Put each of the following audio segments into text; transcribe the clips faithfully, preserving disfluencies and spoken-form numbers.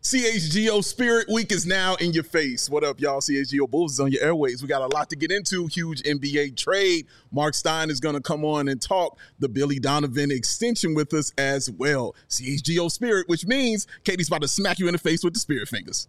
C H G O Spirit Week is now in your face. What up, y'all? C H G O Bulls is on your airways. We got a lot to get into. Huge N B A trade. Mark Stein is going to come on and talk the Billy Donovan extension with us as well. C H G O Spirit, which means Katie's about to smack you in the face with the spirit fingers.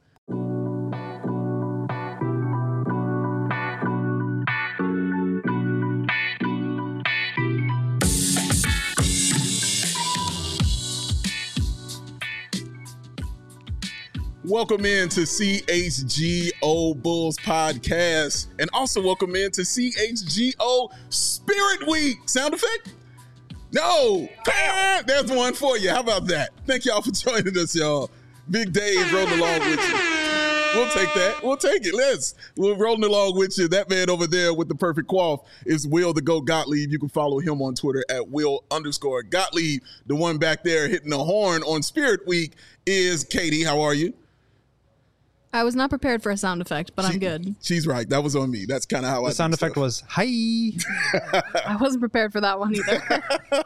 Welcome in to C H G O Bulls Podcast, and also welcome in to C H G O Spirit Week. Sound effect? No. Bam! There's one for you. How about that? Thank y'all for joining us, y'all. Big Dave rolling along with you. We'll take that. We'll take it. Let's. We're rolling along with you. That man over there with the perfect quaff is Will the Go Gottlieb. You can follow him on Twitter at Will underscore Gottlieb. The one back there hitting the horn on Spirit Week is Katie. How are you? I was not prepared for a sound effect, but she, I'm good. She's right. That was on me. That's kind of how the I The sound effect stuff. was, hi. I wasn't prepared for that one either.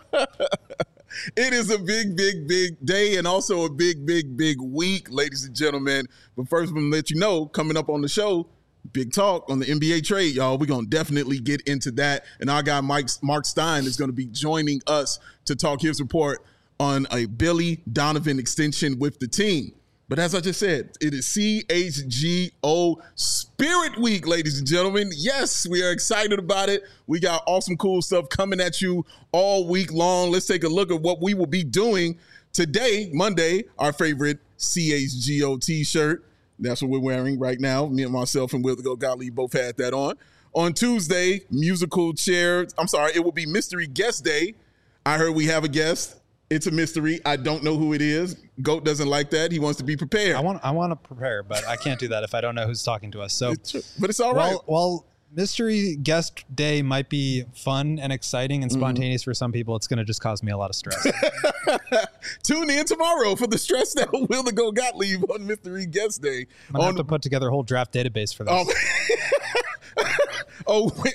It is a big, big, big day and also a big, big, big week, ladies and gentlemen. But first, I'm going to let you know, coming up on the show, big talk on the N B A trade, y'all. We're going to definitely get into that. And our guy, Mike, Mark Stein, is going to be joining us to talk his report on a Billy Donovan extension with the team. But as I just said, it is C H G O Spirit Week, ladies and gentlemen. Yes, we are excited about it. We got awesome, cool stuff coming at you all week long. Let's take a look at what we will be doing today, Monday, our favorite C H G O t-shirt. That's what we're wearing right now. Me and myself and Will the Go Gottlieb both had that on. On Tuesday, musical chair. I'm sorry, it will be Mystery Guest Day. I heard we have a guest. It's a mystery. I don't know who it is. Goat doesn't like that. He wants to be prepared. I want I want to prepare, but I can't do that if I don't know who's talking to us. So, it's, but it's all right. Well, well, mystery guest day might be fun and exciting and spontaneous mm-hmm. for some people. It's going to just cause me a lot of stress. Tune in tomorrow for the stress that Will the Go Gottlieb on Mystery Guest Day. I'm going to have to put together a whole draft database for this. Oh, oh,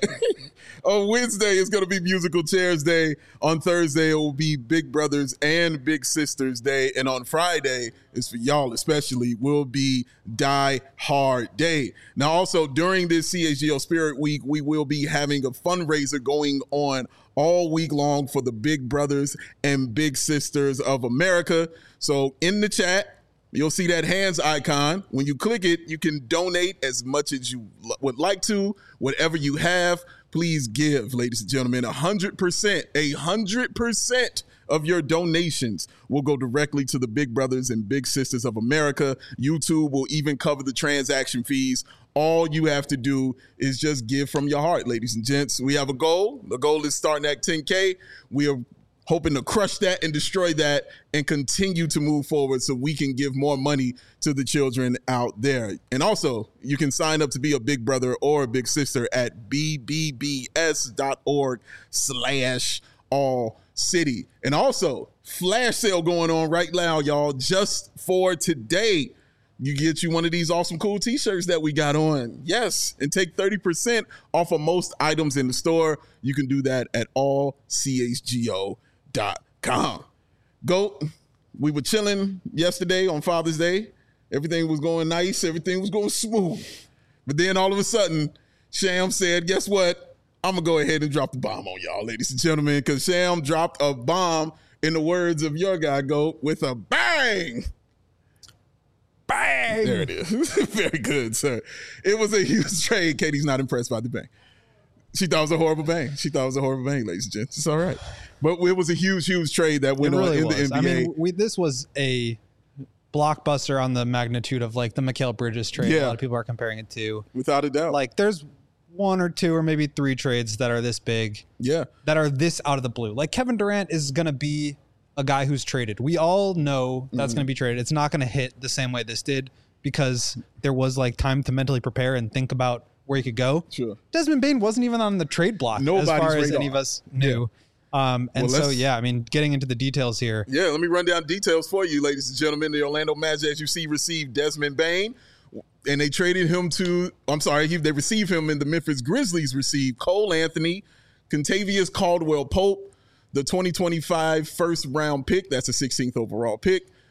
on Wednesday, it's going to be Musical Chairs Day. On Thursday, it will be Big Brothers and Big Sisters Day. And on Friday, is for y'all especially, will be Die Hard Day. Now, also, during this C H G O Spirit Week, we will be having a fundraiser going on all week long for the Big Brothers and Big Sisters of America. So in the chat, you'll see that hands icon. When you click it, you can donate as much as you would like to, whatever you have. Please give, ladies and gentlemen, one hundred percent, one hundred percent of your donations will go directly to the Big Brothers and Big Sisters of America. YouTube will even cover the transaction fees. All you have to do is just give from your heart, ladies and gents. We have a goal. The goal is starting at ten K. We are hoping to crush that and destroy that and continue to move forward so we can give more money to the children out there. And also, you can sign up to be a big brother or a big sister at bbbs.org slash all city. And also, flash sale going on right now, y'all, just for today. You get you one of these awesome, cool t-shirts that we got on. Yes, and take thirty percent off of most items in the store. You can do that at all c h g o dot com. Go. We were chilling yesterday on Father's Day. Everything was going nice. Everything was going smooth. But then all of a sudden, Sham said, guess what? I'm going to go ahead and drop the bomb on y'all, ladies and gentlemen, because Sham dropped a bomb, in the words of your guy, Go, with a bang. Bang. There it is. Very good, sir. It was a huge trade. Katie's not impressed by the bang. She thought it was a horrible bang. She thought it was a horrible bang, ladies and gents. It's all right. But it was a huge, huge trade that went really on in was. the N B A. I mean, we, this was a blockbuster on the magnitude of like the Mikal Bridges trade. Yeah. A lot of people are comparing it to. Without a doubt. Like there's one or two or maybe three trades that are this big. Yeah. That are this out of the blue. Like Kevin Durant is going to be a guy who's traded. We all know that's mm-hmm. going to be traded. It's not going to hit the same way this did because there was like time to mentally prepare and think about where he could go. Sure. Desmond Bane wasn't even on the trade block Nobody's as far as radar. any of us knew. Yeah. Um, and well, so, yeah, I mean, getting into the details here. Yeah, let me run down details for you, ladies and gentlemen. The Orlando Magic, as you see, received Desmond Bane, and they traded him to, I'm sorry, he, they received him, and the Memphis Grizzlies received Cole Anthony, Contavious Caldwell-Pope, the twenty twenty-five first-round pick, that's a sixteenth overall pick,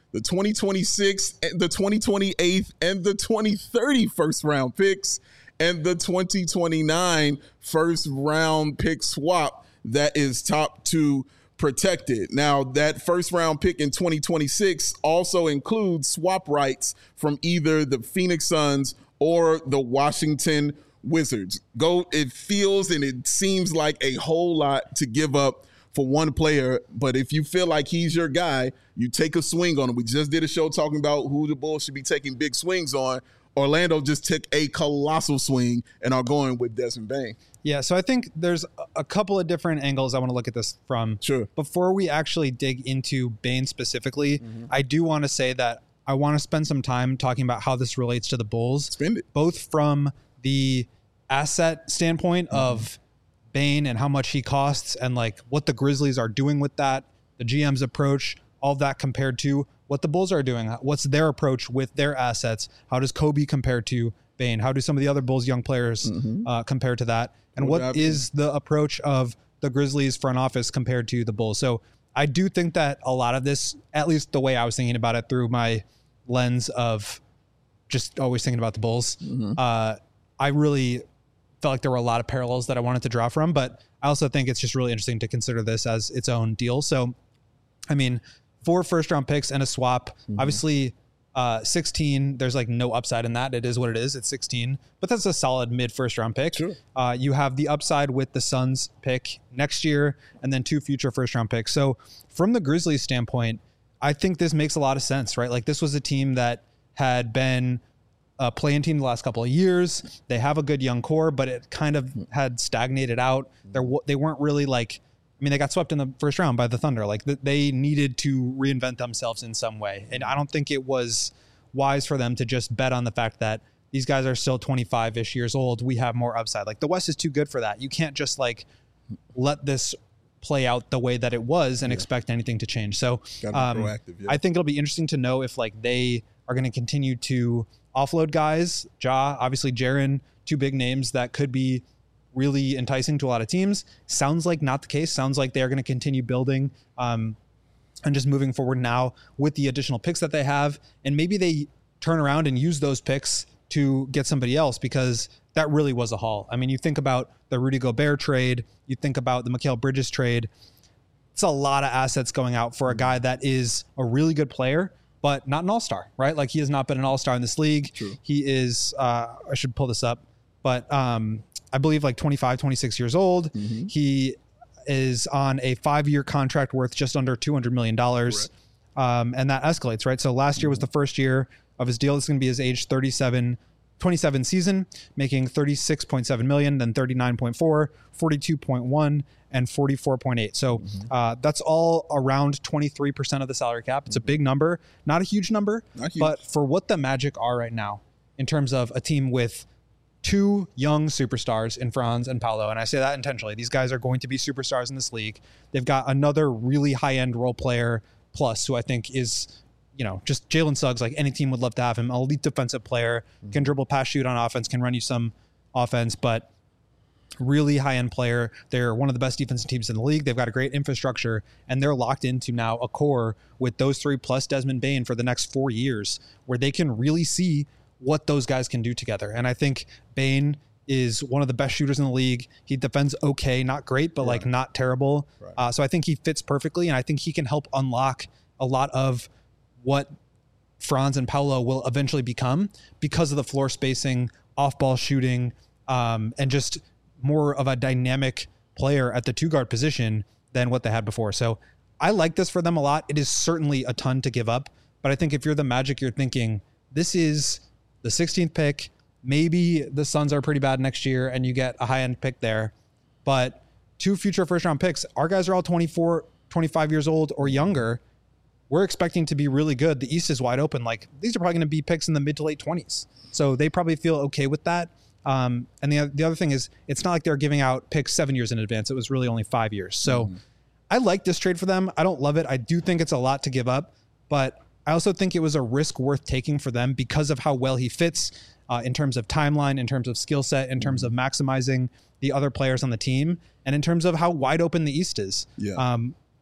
the twenty twenty-six, the twenty twenty-eight, and the twenty thirty first round picks, and the twenty twenty-nine first round pick swap that is top two protected. Now, that first round pick in twenty twenty-six also includes swap rights from either the Phoenix Suns or the Washington Wizards. Go, it feels and it seems like a whole lot to give up for one player, but if you feel like he's your guy, you take a swing on him. We just did a show talking about who the Bulls should be taking big swings on. Orlando just took a colossal swing and are going with Desmond Bane. Yeah, so I think there's a couple of different angles I want to look at this from. Sure. Before we actually dig into Bane specifically, mm-hmm. I do want to say that I want to spend some time talking about how this relates to the Bulls. Spend it. Both from the asset standpoint mm-hmm. of Bane and how much he costs and like what the Grizzlies are doing with that, the G M's approach, all of that compared to what the Bulls are doing. What's their approach with their assets? How does Kobe compare to Bane? How do some of the other Bulls young players mm-hmm. uh, compare to that? And what, what is the approach of the Grizzlies front office compared to the Bulls? So I do think that a lot of this, at least the way I was thinking about it through my lens of just always thinking about the Bulls, mm-hmm. uh, I really felt like there were a lot of parallels that I wanted to draw from, but I also think it's just really interesting to consider this as its own deal. So, I mean, four first round picks and a swap, mm-hmm. obviously uh, sixteen, there's like no upside in that. It is what it is. It's sixteen, but that's a solid mid first round pick. Sure. Uh, you have the upside with the Suns pick next year and then two future first round picks. So from the Grizzlies standpoint, I think this makes a lot of sense, right? Like this was a team that had been a play-in team the last couple of years. They have a good young core, but it kind of had stagnated out. They're, they weren't really like, I mean, they got swept in the first round by the Thunder. Like they needed to reinvent themselves in some way. And I don't think it was wise for them to just bet on the fact that these guys are still twenty-five-ish years old. We have more upside. Like the West is too good for that. You can't just like let this play out the way that it was and yeah. expect anything to change. So um, proactive, yeah. I think it'll be interesting to know if like they are going to continue to offload guys. Ja, obviously Jaren, two big names that could be really enticing to a lot of teams. Sounds like not the case. Sounds like they're going to continue building um, and just moving forward now with the additional picks that they have. And maybe they turn around and use those picks to get somebody else, because that really was a haul. I mean, you think about the Rudy Gobert trade, you think about the Mikal Bridges trade. It's a lot of assets going out for a guy that is a really good player, but not an all-star, right? Like he has not been an all-star in this league. True. He is, uh, I should pull this up, but um, I believe like twenty-five, twenty-six years old. Mm-hmm. He is on a five-year contract worth just under two hundred million dollars. Um, and that escalates, right? So last year was the first year of his deal. This is going to be his age thirty-seven, twenty-seven season, making thirty-six point seven million, then thirty-nine point four, forty-two point one, and forty-four point eight. So mm-hmm. uh, that's all around twenty-three percent of the salary cap. It's mm-hmm. a big number, not a huge number, not huge. But for what the Magic are right now in terms of a team with two young superstars in Franz and Paolo, and I say that intentionally. These guys are going to be superstars in this league. They've got another really high-end role player plus, who I think is, you know, just Jalen Suggs. Like any team would love to have him. Elite defensive player, mm-hmm. can dribble, pass, shoot on offense, can run you some offense, but really high-end player. They're one of the best defensive teams in the league. They've got a great infrastructure, and they're locked into now a core with those three plus Desmond Bane for the next four years where they can really see what those guys can do together. And I think Bane is one of the best shooters in the league. He defends okay, not great, but right. like not terrible. Right. Uh, so I think he fits perfectly, and I think he can help unlock a lot of what Franz and Paolo will eventually become because of the floor spacing, off-ball shooting, um, and just more of a dynamic player at the two-guard position than what they had before. So I like this for them a lot. It is certainly a ton to give up, but I think if you're the Magic, you're thinking, this is the sixteenth pick. Maybe the Suns are pretty bad next year and you get a high-end pick there, but two future first-round picks. Our guys are all twenty-four, twenty-five years old or younger. We're expecting to be really good. The East is wide open. Like these are probably going to be picks in the mid to late twenties. So they probably feel okay with that. Um, and the, the other thing is it's not like they're giving out picks seven years in advance. It was really only five years. So mm-hmm. I like this trade for them. I don't love it. I do think it's a lot to give up, but I also think it was a risk worth taking for them because of how well he fits uh, in terms of timeline, in terms of skill set, in terms of maximizing the other players on the team, and in terms of how wide open the East is. Yeah. Um,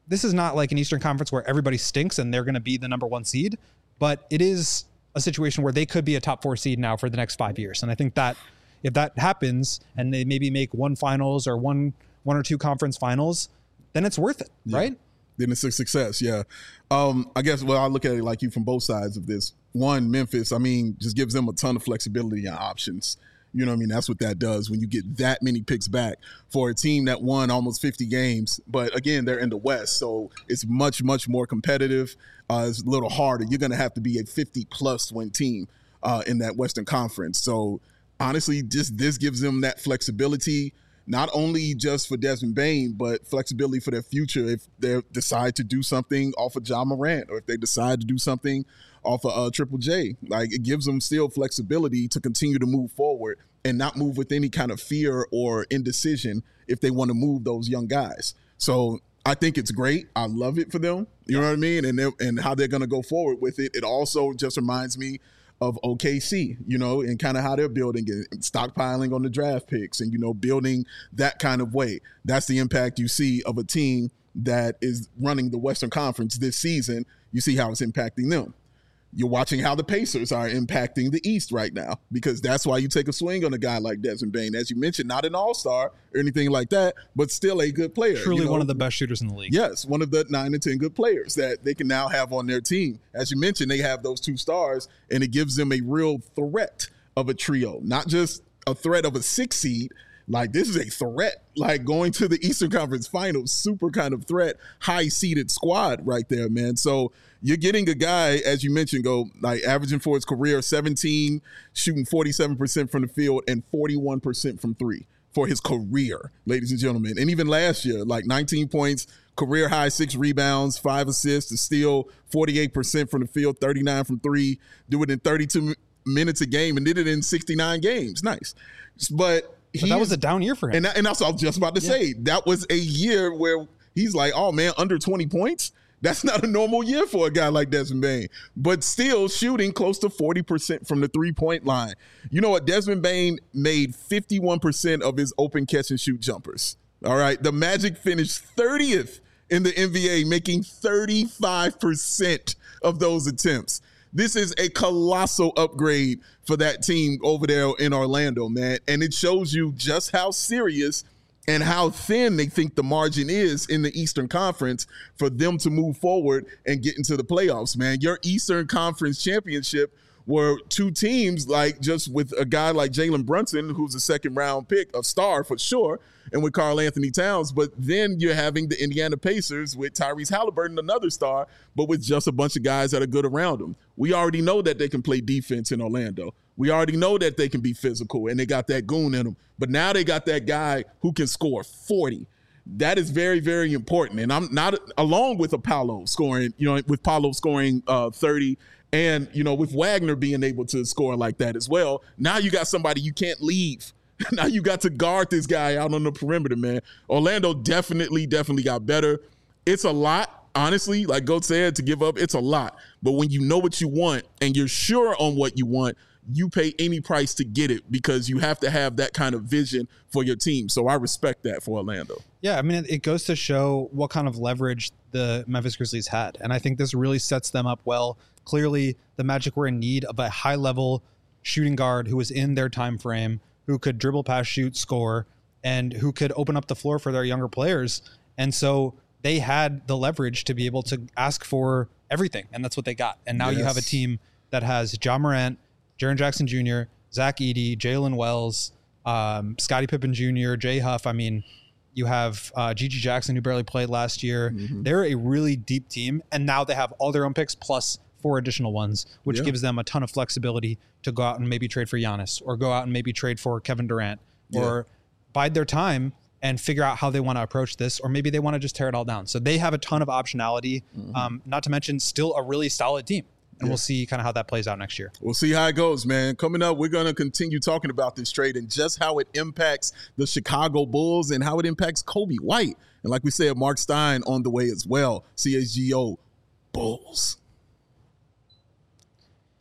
this is not like an Eastern Conference where everybody stinks and they're going to be the number one seed, but it is a situation where they could be a top four seed now for the next five years. And I think that if that happens and they maybe make one finals or one one or two conference finals, then it's worth it, yeah. right? Then it's a success, yeah. Um, I guess, well, I look at it like you from both sides of this. One, Memphis, I mean, just gives them a ton of flexibility and options. You know what I mean? That's what that does when you get that many picks back for a team that won almost fifty games. But again, they're in the West, so it's much, much more competitive. Uh, it's a little harder. You're going to have to be a fifty-plus win team uh, in that Western Conference. So honestly, just this gives them that flexibility, not only just for Desmond Bane, but flexibility for their future if they decide to do something off of Ja Morant or if they decide to do something off of uh, Triple J. Like, it gives them still flexibility to continue to move forward and not move with any kind of fear or indecision if they want to move those young guys. So I think it's great. I love it for them. You know what I mean? And and how they're going to go forward with it. It also just reminds me of O K C, you know, and kind of how they're building it, stockpiling on the draft picks and, you know, building that kind of way. That's the impact you see of a team that is running the Western Conference this season. You see how it's impacting them. You're watching how the Pacers are impacting the East right now, because that's why you take a swing on a guy like Desmond Bane. As you mentioned, not an all-star or anything like that, but still a good player. Truly you know? one of the best shooters in the league. Yes, one of the nine and ten good players that they can now have on their team. As you mentioned, they have those two stars, and it gives them a real threat of a trio, not just a threat of a six seed. Like, this is a threat, like going to the Eastern Conference Finals, super kind of threat, high-seeded squad right there, man. So you're getting a guy, as you mentioned, go like averaging for his career seventeen, shooting forty-seven percent from the field and forty-one percent from three for his career, ladies and gentlemen. And even last year, like nineteen points, career high, six rebounds, five assists, a steal, forty-eight percent from the field, thirty-nine from three, do it in thirty-two minutes a game, and did it in sixty-nine games. Nice. But But that was a down year for him. And, and that's what I was just about to yeah. say. That was a year where he's like, oh, man, under twenty points? That's not a normal year for a guy like Desmond Bane. But still shooting close to forty percent from the three-point line. You know what? Desmond Bane made fifty-one percent of his open catch-and-shoot jumpers. All right? The Magic finished thirtieth in the N B A, making thirty-five percent of those attempts. This is a colossal upgrade for that team over there in Orlando, man. And it shows you just how serious and how thin they think the margin is in the Eastern Conference for them to move forward and get into the playoffs, man. Your Eastern Conference championship were two teams, like just with a guy like Jalen Brunson, who's a second round pick, a star for sure, and with Karl Anthony Towns. But then you're having the Indiana Pacers with Tyrese Halliburton, another star, but with just a bunch of guys that are good around him. We already know that they can play defense in Orlando. We already know that they can be physical and they got that goon in them. But now they got that guy who can score forty. That is very, very important. And I'm not, along with a Paolo scoring, you know, with Paolo scoring uh, thirty, and, you know, with Wagner being able to score like that as well, now you got somebody you can't leave. Now you got to guard this guy out on the perimeter, man. Orlando definitely, definitely got better. It's a lot, honestly, like Goat said, to give up. It's a lot. But when you know what you want and you're sure on what you want, you pay any price to get it, because you have to have that kind of vision for your team. So I respect that for Orlando. Yeah, I mean, it goes to show what kind of leverage the Memphis Grizzlies had. And I think this really sets them up well. Clearly, the Magic were in need of a high-level shooting guard who was in their time frame, who could dribble, pass, shoot, score, and who could open up the floor for their younger players. And so they had the leverage to be able to ask for everything, and that's what they got. And now yes. you have a team that has Ja Morant, Jaren Jackson Junior, Zach Edey, Jalen Wells, um, Scottie Pippen Junior, Jay Huff. I mean, you have uh, Gigi Jackson, who barely played last year. Mm-hmm. They're a really deep team, and now they have all their own picks plus four additional ones, which yeah. gives them a ton of flexibility to go out and maybe trade for Giannis, or go out and maybe trade for Kevin Durant, yeah. or bide their time and figure out how they want to approach this, or maybe they want to just tear it all down. So they have a ton of optionality, mm-hmm. um, not to mention still a really solid team. And yeah. we'll see kind of how that plays out next year. We'll see how it goes, man. Coming up, we're going to continue talking about this trade and just how it impacts the Chicago Bulls and how it impacts Kobe White. And like we said, Mark Stein on the way as well. C H G O Bulls.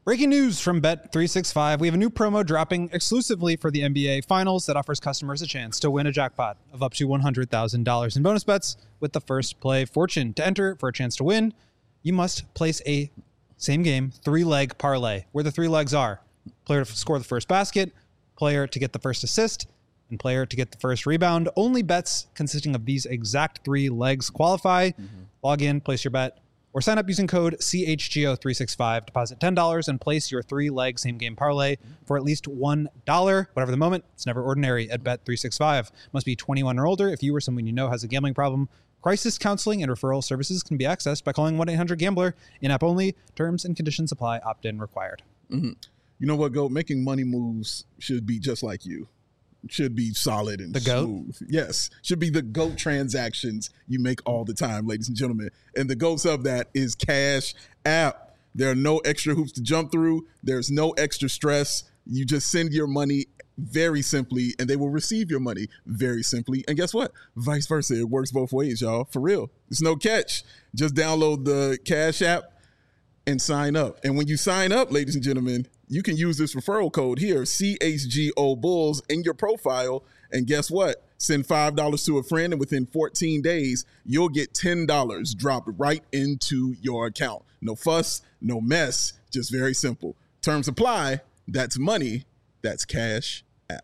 Breaking news from Bet three sixty-five. We have a new promo dropping exclusively for the N B A Finals that offers customers a chance to win a jackpot of up to one hundred thousand dollars in bonus bets with the first play fortune. To enter for a chance to win, you must place a same game three-leg parlay, where the three legs are player to score the first basket, player to get the first assist, and player to get the first rebound. Only bets consisting of these exact three legs qualify. Mm-hmm. Log in, place your bet, or sign up using code C H G O three sixty-five. Deposit ten dollars and place your three-leg same-game parlay for at least one dollar. Whatever the moment, it's never ordinary at Bet three sixty-five. Must be twenty-one or older. If you or someone you know has a gambling problem, crisis counseling and referral services can be accessed by calling one eight hundred gambler. In-app only. Terms and conditions apply. Opt-in required. Mm-hmm. You know what, Goat? Making money moves should be just like you. Should be solid and the goat? smooth. Yes. Should be the GOAT transactions you make all the time, ladies and gentlemen. And the GOATs of that is Cash App. There are no extra hoops to jump through. There's no extra stress. You just send your money very simply, and they will receive your money very simply. And guess what? Vice versa. It works both ways, y'all. For real. It's no catch. Just download the Cash App and sign up. And when you sign up, ladies and gentlemen, you can use this referral code here, C H G O Bulls, in your profile. And guess what? Send five dollars to a friend, and within fourteen days, you'll get ten dollars dropped right into your account. No fuss, no mess, just very simple. Terms apply. That's money. That's Cash App.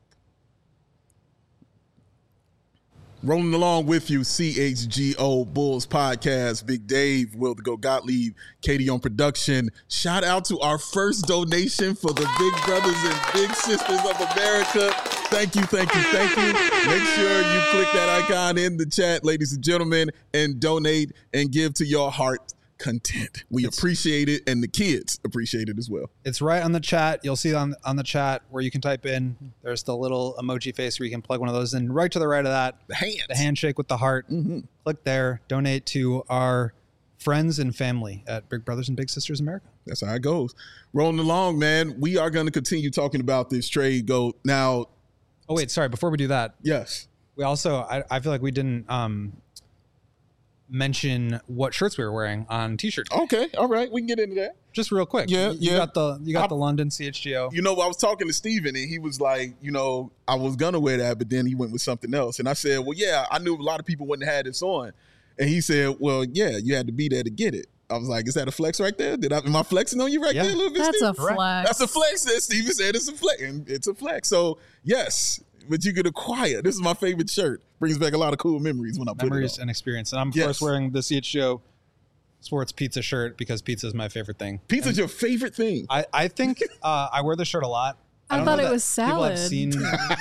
Rolling along with you, C H G O Bulls Podcast. Big Dave, Will the Go Gottlieb, Katie on production. Shout out to our first donation for the Big Brothers and Big Sisters of America. Thank you, thank you, thank you. Make sure you click that icon in the chat, ladies and gentlemen, and donate and give to your heart content. We it's, appreciate it, and the kids appreciate it as well. It's right on the chat. You'll see on on the chat where you can type in. There's the little emoji face where you can plug one of those in. Right to the right of that, the hand, the handshake with the heart. Mm-hmm. Click there. Donate to our friends and family at Big Brothers and Big Sisters America. That's how it goes. Rolling along, man. We are going to continue talking about this trade. Go now. Oh wait, sorry. Before we do that, yes, we also. I, I feel like we didn't. Um, mention what shirts we were wearing on T-shirt. Okay, all right, we can get into that just real quick. Yeah, you, yeah. You got the you got I, the London C H G O. You know, I was talking to Steven and he was like, you know, I was gonna wear that, but then he went with something else. And I said, well, yeah, I knew a lot of people wouldn't have had this on. And he said, well, yeah, you had to be there to get it. I was like, is that a flex right there? Did I am I flexing on you right yeah. there a little bit? That's Steve? a flex. That's a flex. That Steven said it's a flex, and it's a flex. So yes. But you could acquire. This is my favorite shirt. Brings back a lot of cool memories when I put memories it on. and experience. And I'm of yes. course wearing the C H G O Sports Pizza shirt because pizza is my favorite thing. Pizza's and your favorite thing. I, I think uh, I wear the shirt a lot. I, I thought it was salad. Seen,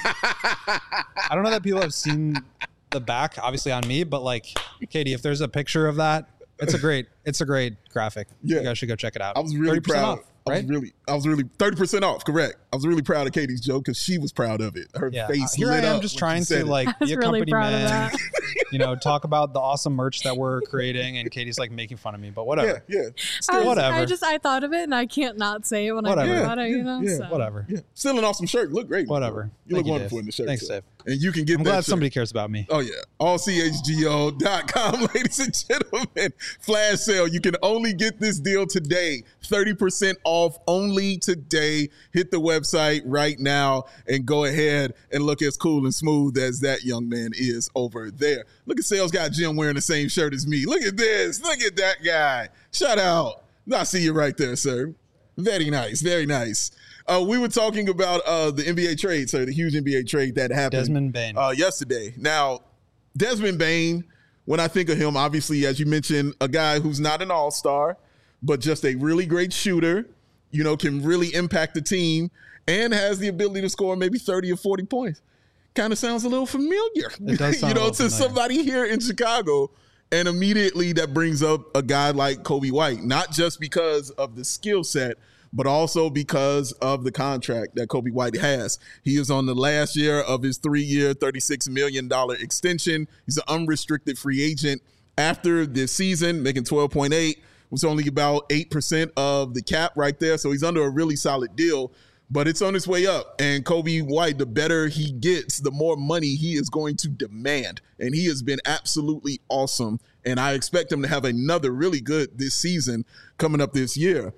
I don't know that people have seen the back, obviously on me, but like Katie, if there's a picture of that, it's a great, it's a great graphic. Yeah. You guys should go check it out. I was really proud. Off, right? I was really, I was really thirty percent off. Correct. I was really proud of Katie's joke because she was proud of it. Her yeah. face. Here lit I am, up just trying to it. like be a really company proud man. Of that. You know, talk about the awesome merch that we're creating, and Katie's like making fun of me, but whatever. Yeah, yeah. I was, whatever. I just I thought of it, and I can't not say it when whatever. I think about it. You know, yeah, so. Whatever. Yeah. Still an awesome shirt. Look great. Whatever. You Thank look wonderful Dave. in the shirt. Thanks, so. Dave. And you can get I'm that glad shirt. somebody cares about me. Oh yeah. all C H G O dot com, ladies and gentlemen. Flash sale. You can only get this deal today. thirty percent off only today. Hit the website right now and go ahead and look as cool and smooth as that young man is over there. Look at Sales Guy Jim wearing the same shirt as me. Look at this. Look at that guy. Shout out. I see you right there, sir. Very nice. Very nice. Uh, we were talking about uh, the N B A trade, sir, the huge N B A trade that happened Desmond Bane. Uh, yesterday. Now, Desmond Bane, when I think of him, obviously, as you mentioned, a guy who's not an all-star, but just a really great shooter, you know, can really impact the team and has the ability to score maybe thirty or forty points. Kind of sounds a little familiar, it does sound you know, a to familiar. somebody here in Chicago. And immediately that brings up a guy like Kobe White, not just because of the skill set, but also because of the contract that Kobe White has. He is on the last year of his three-year, thirty-six million dollars extension. He's an unrestricted free agent after this season, making twelve point eight, was only about eight percent of the cap right there. So he's under a really solid deal, but it's on its way up. And Kobe White, the better he gets, the more money he is going to demand. And he has been absolutely awesome. And I expect him to have another really good this season coming up this year.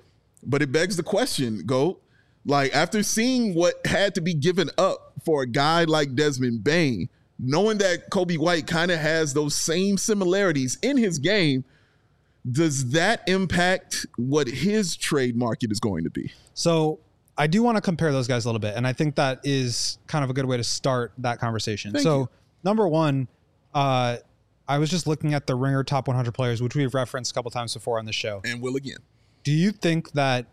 But it begs the question, Go, like after seeing what had to be given up for a guy like Desmond Bane, knowing that Coby White kind of has those same similarities in his game, does that impact what his trade market is going to be? So I do want to compare those guys a little bit, and I think that is kind of a good way to start that conversation. Thank so you. number one, uh, I was just looking at the Ringer Top one hundred players, which we've referenced a couple times before on the show. And will again. Do you think that,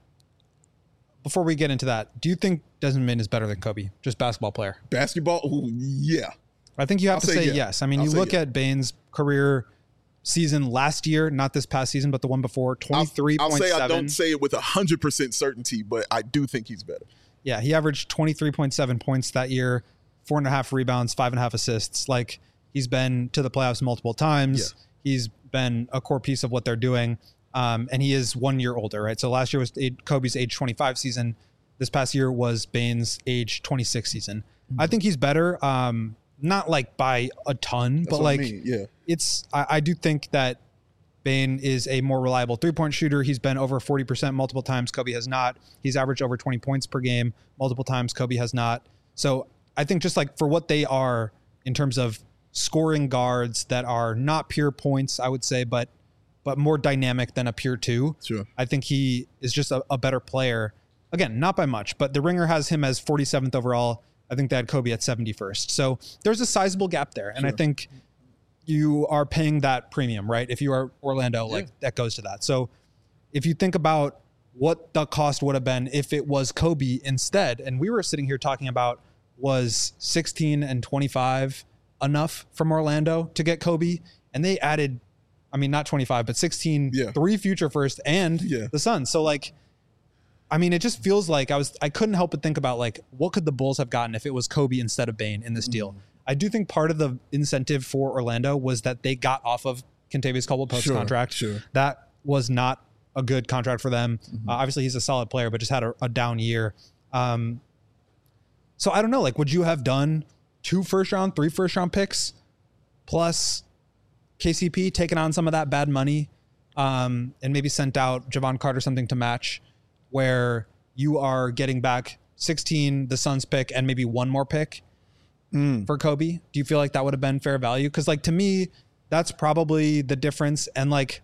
before we get into that, do you think Desmond Bane is better than Kobe, just basketball player? Basketball, ooh, yeah. I think you have I'll to say say yeah. yes. I mean, I'll you say look yeah. at Bane's career season last year, not this past season, but the one before, twenty-three I'll, I'll point say seven. I don't say it with one hundred percent certainty, but I do think he's better. Yeah, he averaged twenty-three point seven points that year, four and a half rebounds, five and a half assists. Like, he's been to the playoffs multiple times. Yeah. He's been a core piece of what they're doing. Um, and he is one year older, right? So last year was Kobe's age twenty-five season. This past year was Bane's age twenty-six season. Mm-hmm. I think he's better. Um, not like by a ton, That's but what like I mean. yeah. it's, I, I do think that Bane is a more reliable three-point shooter. He's been over forty percent multiple times. Kobe has not. He's averaged over twenty points per game multiple times. Kobe has not. So I think just like for what they are in terms of scoring guards that are not pure points, I would say, but but more dynamic than a pure two. Sure. I think he is just a, a better player. Again, not by much, but the Ringer has him as forty-seventh overall. I think they had Kobe at seventy-first. So there's a sizable gap there. And Sure. I think you are paying that premium, right? If you are Orlando, Yeah. like that goes to that. So if you think about what the cost would have been if it was Kobe instead, and we were sitting here talking about was sixteen and twenty-five enough from Orlando to get Kobe, and they added, I mean, not twenty-five, but sixteen, Yeah. three future first and Yeah. the Suns. So like, I mean, it just feels like I was, I couldn't help but think about like, what could the Bulls have gotten if it was Kobe instead of Bane in this deal? I do think part of the incentive for Orlando was that they got off of Kentavious Caldwell-Pope's Sure, contract. sure. That was not a good contract for them. Mm-hmm. Uh, obviously, he's a solid player, but just had a, a down year. Um, so I don't know. Like, would you have done two first round, three first round picks plus K C P taking on some of that bad money, um, and maybe sent out Javon Carter something to match, where you are getting back sixteen, the Suns pick, and maybe one more pick Mm. for Kobe? Do you feel like that would have been fair value? Because like to me, that's probably the difference. And like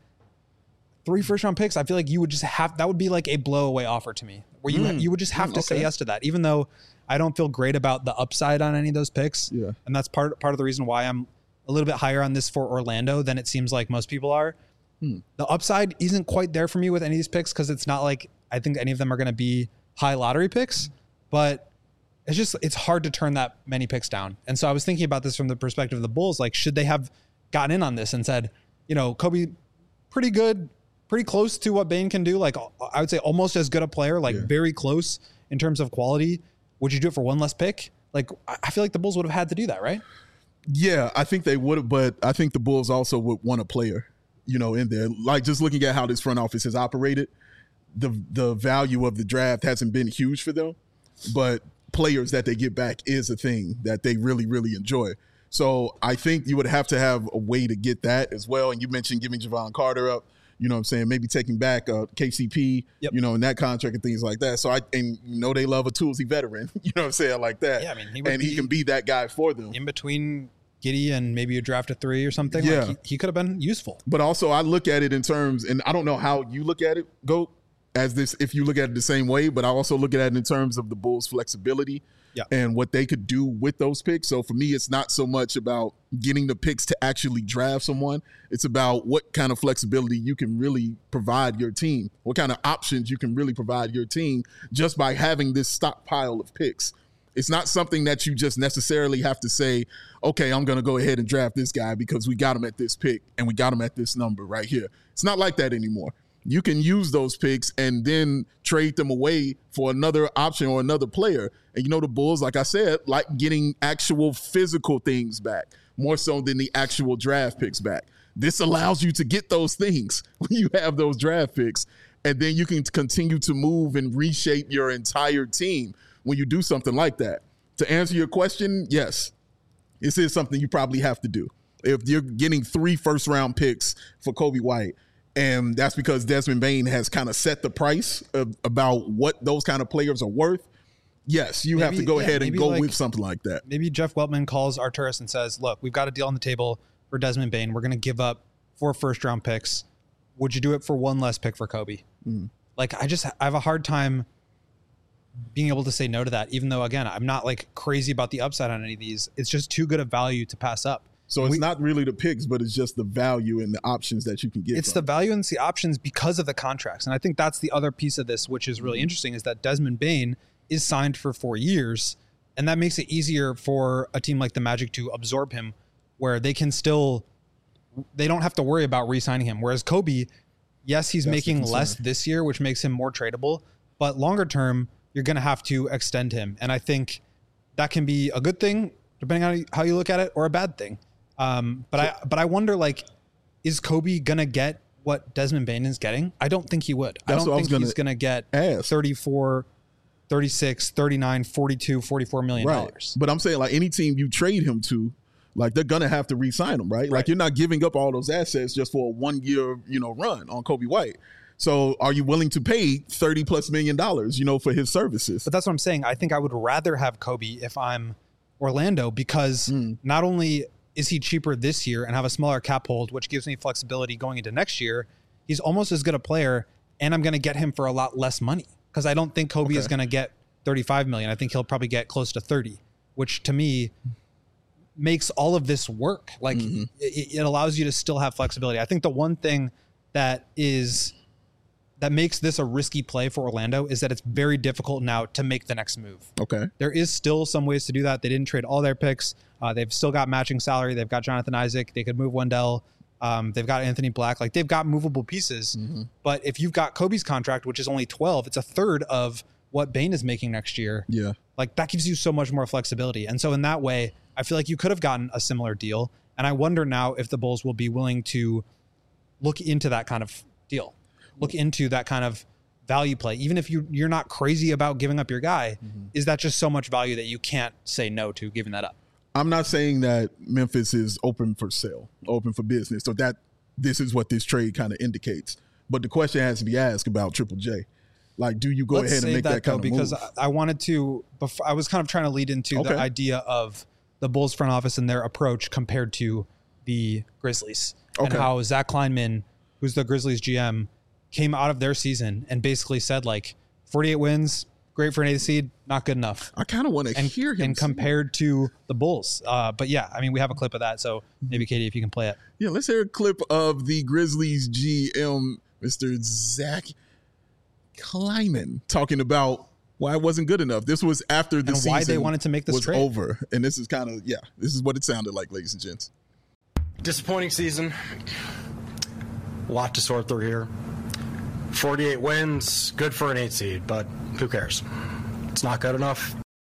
three first round picks, I feel like you would just have, that would be like a blowaway offer to me, where you Mm. you would just have Mm, to say okay. yes to that, even though I don't feel great about the upside on any of those picks. Yeah. And that's part part of the reason why I'm a little bit higher on this for Orlando than it seems like most people are. Hmm. The upside isn't quite there for me with any of these picks, because it's not like I think any of them are going to be high lottery picks, but it's just, it's hard to turn that many picks down. And so I was thinking about this from the perspective of the Bulls. Like, should they have gotten in on this and said, you know, Kobe, pretty good, pretty close to what Bane can do. Like, I would say almost as good a player, like Yeah. very close in terms of quality. Would you do it for one less pick? Like, I feel like the Bulls would have had to do that, right? Yeah, I think they would have, but I think the Bulls also would want a player, you know, in there. Like, just looking at how this front office has operated, the the value of the draft hasn't been huge for them, but players that they get back is a thing that they really, really enjoy. So I think you would have to have a way to get that as well. And you mentioned giving Javon Carter up, you know what I'm saying, maybe taking back uh, K C P, Yep. you know, in that contract and things like that. So I, and you know, they love a toolsy veteran, you know what I'm saying, like that. Yeah, I mean, he would and he be- can be that guy for them. In between Giddey and maybe you draft a three or something, Yeah. like he, he could have been useful. But also I look at it in terms, and I don't know how you look at it, Goat, as this, if you look at it the same way, but I also look at it in terms of the Bulls' flexibility Yeah. and what they could do with those picks. So for me, it's not so much about getting the picks to actually draft someone. It's about what kind of flexibility you can really provide your team, what kind of options you can really provide your team just by having this stockpile of picks. It's not something that you just necessarily have to say, okay, I'm going to go ahead and draft this guy because we got him at this pick and we got him at this number right here. It's not like that anymore. You can use those picks and then trade them away for another option or another player. And you know, the Bulls, like I said, like getting actual physical things back more so than the actual draft picks back. This allows you to get those things when you have those draft picks, and then you can continue to move and reshape your entire team when you do something like that. To answer your question, yes, this is something you probably have to do. If you're getting three first round picks for Coby White, and that's because Desmond Bane has kind of set the price of, about what those kind of players are worth. Yes, you maybe, have to go yeah, ahead and go like, with something like that. Maybe Jeff Weltman calls Arturas and says, look, we've got a deal on the table for Desmond Bane. We're going to give up four first-round picks. Would you do it for one less pick for Kobe? Mm. Like, I just I have a hard time being able to say no to that, even though, again, I'm not, like, crazy about the upside on any of these. It's just too good a value to pass up. So it's we, not really the picks, but it's just the value and the options that you can get. It's from. the value and the options because of the contracts. And I think that's the other piece of this, which is really mm-hmm. interesting, is that Desmond Bane is signed for four years. And that makes it easier for a team like the Magic to absorb him, where they can still, they don't have to worry about re-signing him. Whereas Kobe, yes, he's that's making less this year, which makes him more tradable. But longer term, you're going to have to extend him. And I think that can be a good thing, depending on how you look at it, or a bad thing. Um, but so, I, but I wonder, like, is Kobe going to get what Desmond Bane is getting? I don't think he would. I don't think he's going to get ask. thirty-four, thirty-six, thirty-nine, forty-two, forty-four million dollars. Right. But I'm saying, like, any team you trade him to, like, they're going to have to re-sign him, right? right? Like, you're not giving up all those assets just for a one year, you know, run on Kobe White. So are you willing to pay thirty plus million dollars, you know, for his services? But that's what I'm saying. I think I would rather have Kobe if I'm Orlando, because mm. not only is he cheaper this year and have a smaller cap hold, which gives me flexibility going into next year, he's almost as good a player, and I'm going to get him for a lot less money, because I don't think Kobe okay. is going to get thirty-five million. I think he'll probably get close to thirty, which to me makes all of this work. Like mm-hmm. it, it allows you to still have flexibility. I think the one thing that is that makes this a risky play for Orlando is that it's very difficult now to make the next move. Okay. There is still some ways to do that. They didn't trade all their picks. Uh, they've still got matching salary. They've got Jonathan Isaac. They could move Wendell. Um, they've got Anthony Black. Like, they've got movable pieces. Mm-hmm. But if you've got Kobe's contract, which is only twelve, it's a third of what Bane is making next year. Yeah. Like, that gives you so much more flexibility. And so in that way, I feel like you could have gotten a similar deal. And I wonder now if the Bulls will be willing to look into that kind of deal. Look into that kind of value play. Even if you, you're not crazy about giving up your guy, mm-hmm. is that just so much value that you can't say no to giving that up? I'm not saying that Memphis is open for sale, open for business. So that this is what this trade kind of indicates. But the question has to be asked about Triple J. Like, do you go Let's ahead and make that, that kind though, of because move? Because I wanted to, before, I was kind of trying to lead into okay. the idea of the Bulls front office and their approach compared to the Grizzlies. Okay. And how Zach Kleinman, who's the Grizzlies G M, came out of their season and basically said, like, forty-eight wins, great for an eighth seed, not good enough. I kind of want to hear him. And compared to the Bulls. Uh, but yeah, I mean, we have a clip of that. So maybe, Katie, if you can play it. Yeah, let's hear a clip of the Grizzlies G M, Mister Zach Kleinman, talking about why it wasn't good enough. This was after the and season why they wanted to make this was trade. over. And this is kind of, yeah, this is what it sounded like, ladies and gents. Disappointing season. A lot to sort through here. forty-eight wins, good for an eight seed, but who cares? It's not good enough.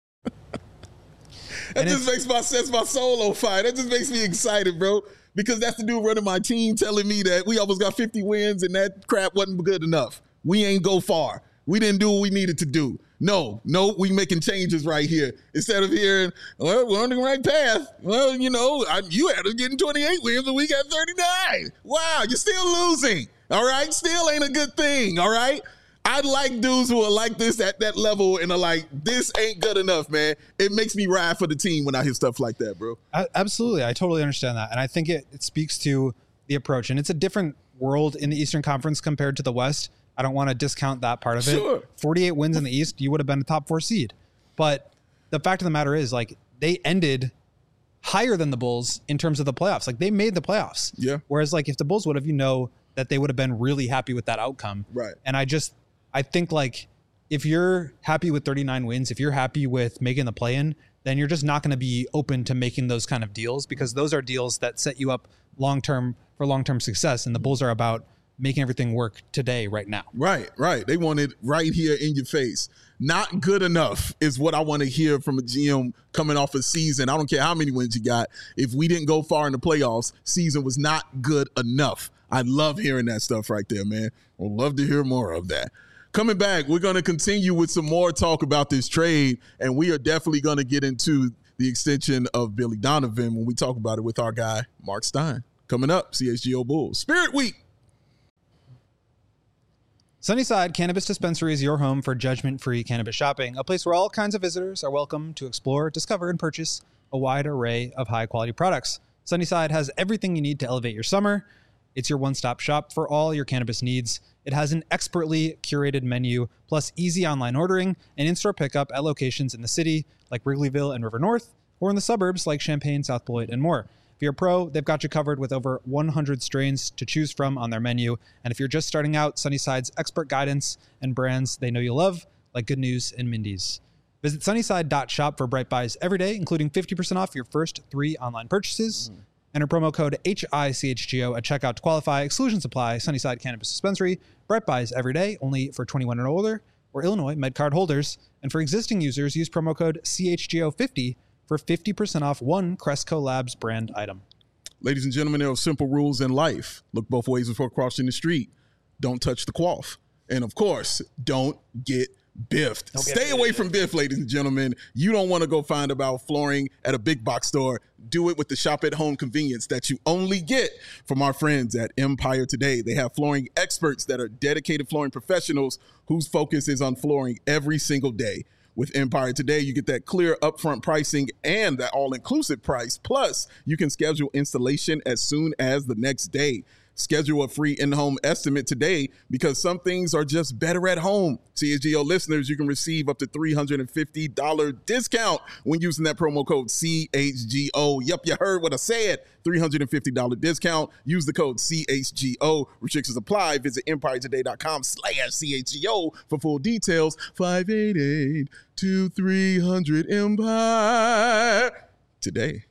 That just makes my sense, my soul on fire. That just makes me excited, bro. Because that's the dude running my team telling me that we almost got fifty wins and that crap wasn't good enough. We ain't go far. We didn't do what we needed to do. No, no, we making changes right here. Instead of hearing, well, we're on the right path. Well, you know, I, you had us getting twenty-eight wins and we got thirty-nine. Wow, you're still losing. All right? Still ain't a good thing. All right? I like dudes who are like this at that level and are like, this ain't good enough, man. It makes me ride for the team when I hear stuff like that, bro. I, absolutely. I totally understand that. And I think it, it speaks to the approach. And it's a different world in the Eastern Conference compared to the West. I don't want to discount that part of it. Sure. forty-eight wins in the East, you would have been a top four seed. But the fact of the matter is, like, they ended higher than the Bulls in terms of the playoffs. Like, they made the playoffs. Yeah. Whereas, like, if the Bulls would have, you know, that they would have been really happy with that outcome. Right. And I just, I think, like, if you're happy with thirty-nine wins, if you're happy with making the play-in, then you're just not going to be open to making those kind of deals, because those are deals that set you up long-term for long-term success. And the Bulls are about making everything work today, right now. Right, right. They want it right here in your face. Not good enough is what I want to hear from a G M coming off a season. I don't care how many wins you got. If we didn't go far in the playoffs, season was not good enough. I love hearing that stuff right there, man. I'd love to hear more of that. Coming back, we're going to continue with some more talk about this trade, and we are definitely going to get into the extension of Billy Donovan when we talk about it with our guy, Mark Stein. Coming up, C H G O Bulls Spirit Week. Sunnyside Cannabis Dispensary is your home for judgment-free cannabis shopping, a place where all kinds of visitors are welcome to explore, discover, and purchase a wide array of high-quality products. Sunnyside has everything you need to elevate your summer. It's your one-stop shop for all your cannabis needs. It has an expertly curated menu, plus easy online ordering and in-store pickup at locations in the city like Wrigleyville and River North, or in the suburbs like Champaign, South Beloit, and more. If you're a pro, they've got you covered with over one hundred strains to choose from on their menu. And if you're just starting out, Sunnyside's expert guidance and brands they know you love, like Good News and Mindy's. Visit sunnyside dot shop for Bright Buys every day, including fifty percent off your first three online purchases. Mm. Enter promo code H I C H G O at checkout to qualify. Exclusions apply. Sunnyside Cannabis Dispensary. Bright Buys every day, only for twenty-one and older, or Illinois MedCard holders. And for existing users, use promo code C H G O fifty for fifty percent off one Cresco Labs brand item. Ladies and gentlemen, there are simple rules in life. Look both ways before crossing the street. Don't touch the quaff. And of course, don't get biffed. Don't Stay away from biff, ladies and gentlemen. You don't want to go find about flooring at a big box store. Do it with the shop at home convenience that you only get from our friends at Empire Today. They have flooring experts that are dedicated flooring professionals whose focus is on flooring every single day. With Empire Today, you get that clear upfront pricing and that all-inclusive price. Plus, you can schedule installation as soon as the next day. Schedule a free in-home estimate today because some things are just better at home. C H G O listeners, you can receive up to three hundred fifty dollars discount when using that promo code C H G O. Yep, you heard what I said. three hundred fifty dollars discount. Use the code C H G O. Restrictions apply. Visit empire today dot com slash C H G O for full details. five eight eight, two three hundred Empire Today.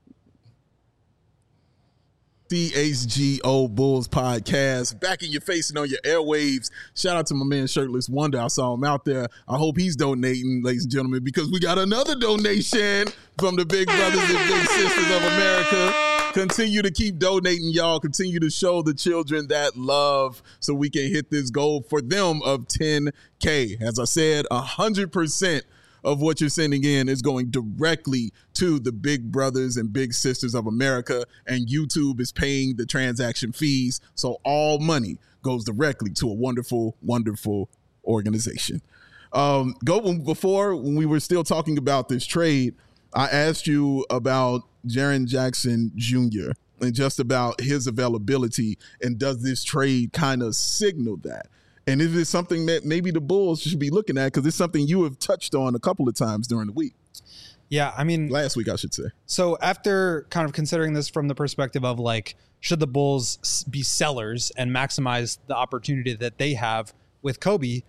C H G O Bulls podcast, back in your face and on your airwaves. Shout out to my man Shirtless Wonder. I saw him out there. I hope he's donating, ladies and gentlemen, because we got another donation from the Big Brothers and Big Sisters of America. Continue to keep donating, y'all. Continue to show the children that love so we can hit this goal for them of ten K. As I said, one hundred percent of what you're sending in is going directly to the Big Brothers and Big Sisters of America, and YouTube is paying the transaction fees, so all money goes directly to a wonderful, wonderful organization. Um, go before, when we were still talking about this trade, I asked you about Jaren Jackson Junior and just about his availability, and does this trade kind of signal that? And is it something that maybe the Bulls should be looking at? Because it's something you have touched on a couple of times during the week. Yeah, I mean... Last week, I should say. So after kind of considering this from the perspective of, like, should the Bulls be sellers and maximize the opportunity that they have with Kobe,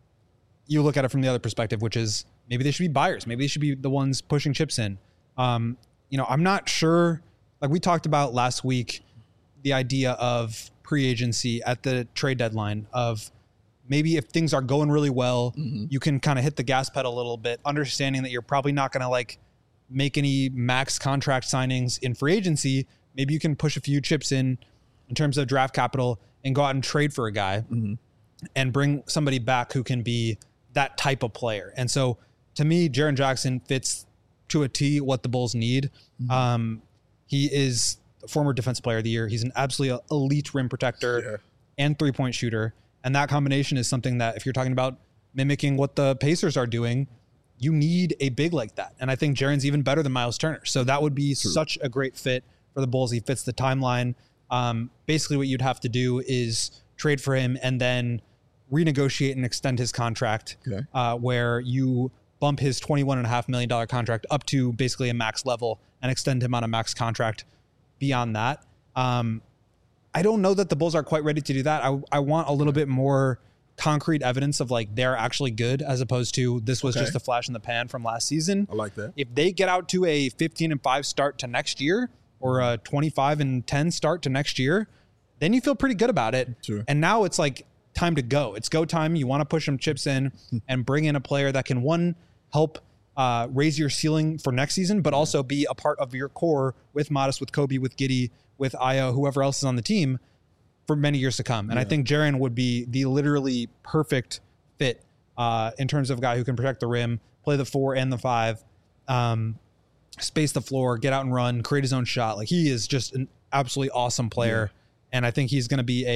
you look at it from the other perspective, which is maybe they should be buyers. Maybe they should be the ones pushing chips in. Um, you know, I'm not sure... Like we talked about last week, the idea of pre-agency at the trade deadline of... Maybe if things are going really well, mm-hmm. you can kind of hit the gas pedal a little bit, understanding that you're probably not going to like make any max contract signings in free agency. Maybe you can push a few chips in in terms of draft capital and go out and trade for a guy mm-hmm. and bring somebody back who can be that type of player. And so to me, Jaren Jackson fits to a T what the Bulls need. Mm-hmm. Um, he is a former defensive player of the year. He's an absolutely elite rim protector yeah. and three-point shooter. And that combination is something that if you're talking about mimicking what the Pacers are doing, you need a big like that. And I think Jaren's even better than Miles Turner. So that would be True. Such a great fit for the Bulls. He fits the timeline. Um, basically what you'd have to do is trade for him and then renegotiate and extend his contract okay. uh, where you bump his twenty-one point five million dollars contract up to basically a max level and extend him on a max contract beyond that. Um, I don't know that the Bulls are quite ready to do that. I, I want a little bit more concrete evidence of like they're actually good as opposed to this was okay. just a flash in the pan from last season. I like that. If they get out to a fifteen and five start to next year or a twenty-five and ten start to next year, then you feel pretty good about it. Sure. And now it's like time to go. It's go time. You want to push some chips in and bring in a player that can one help uh, raise your ceiling for next season, but also be a part of your core with Modest, with Kobe, with Giddey, with Ayo, whoever else is on the team for many years to come. And yeah. I think Jaren would be the literally perfect fit uh, in terms of a guy who can protect the rim, play the four and the five, um, space the floor, get out and run, create his own shot. Like he is just an absolutely awesome player. Yeah. And I think he's going to be a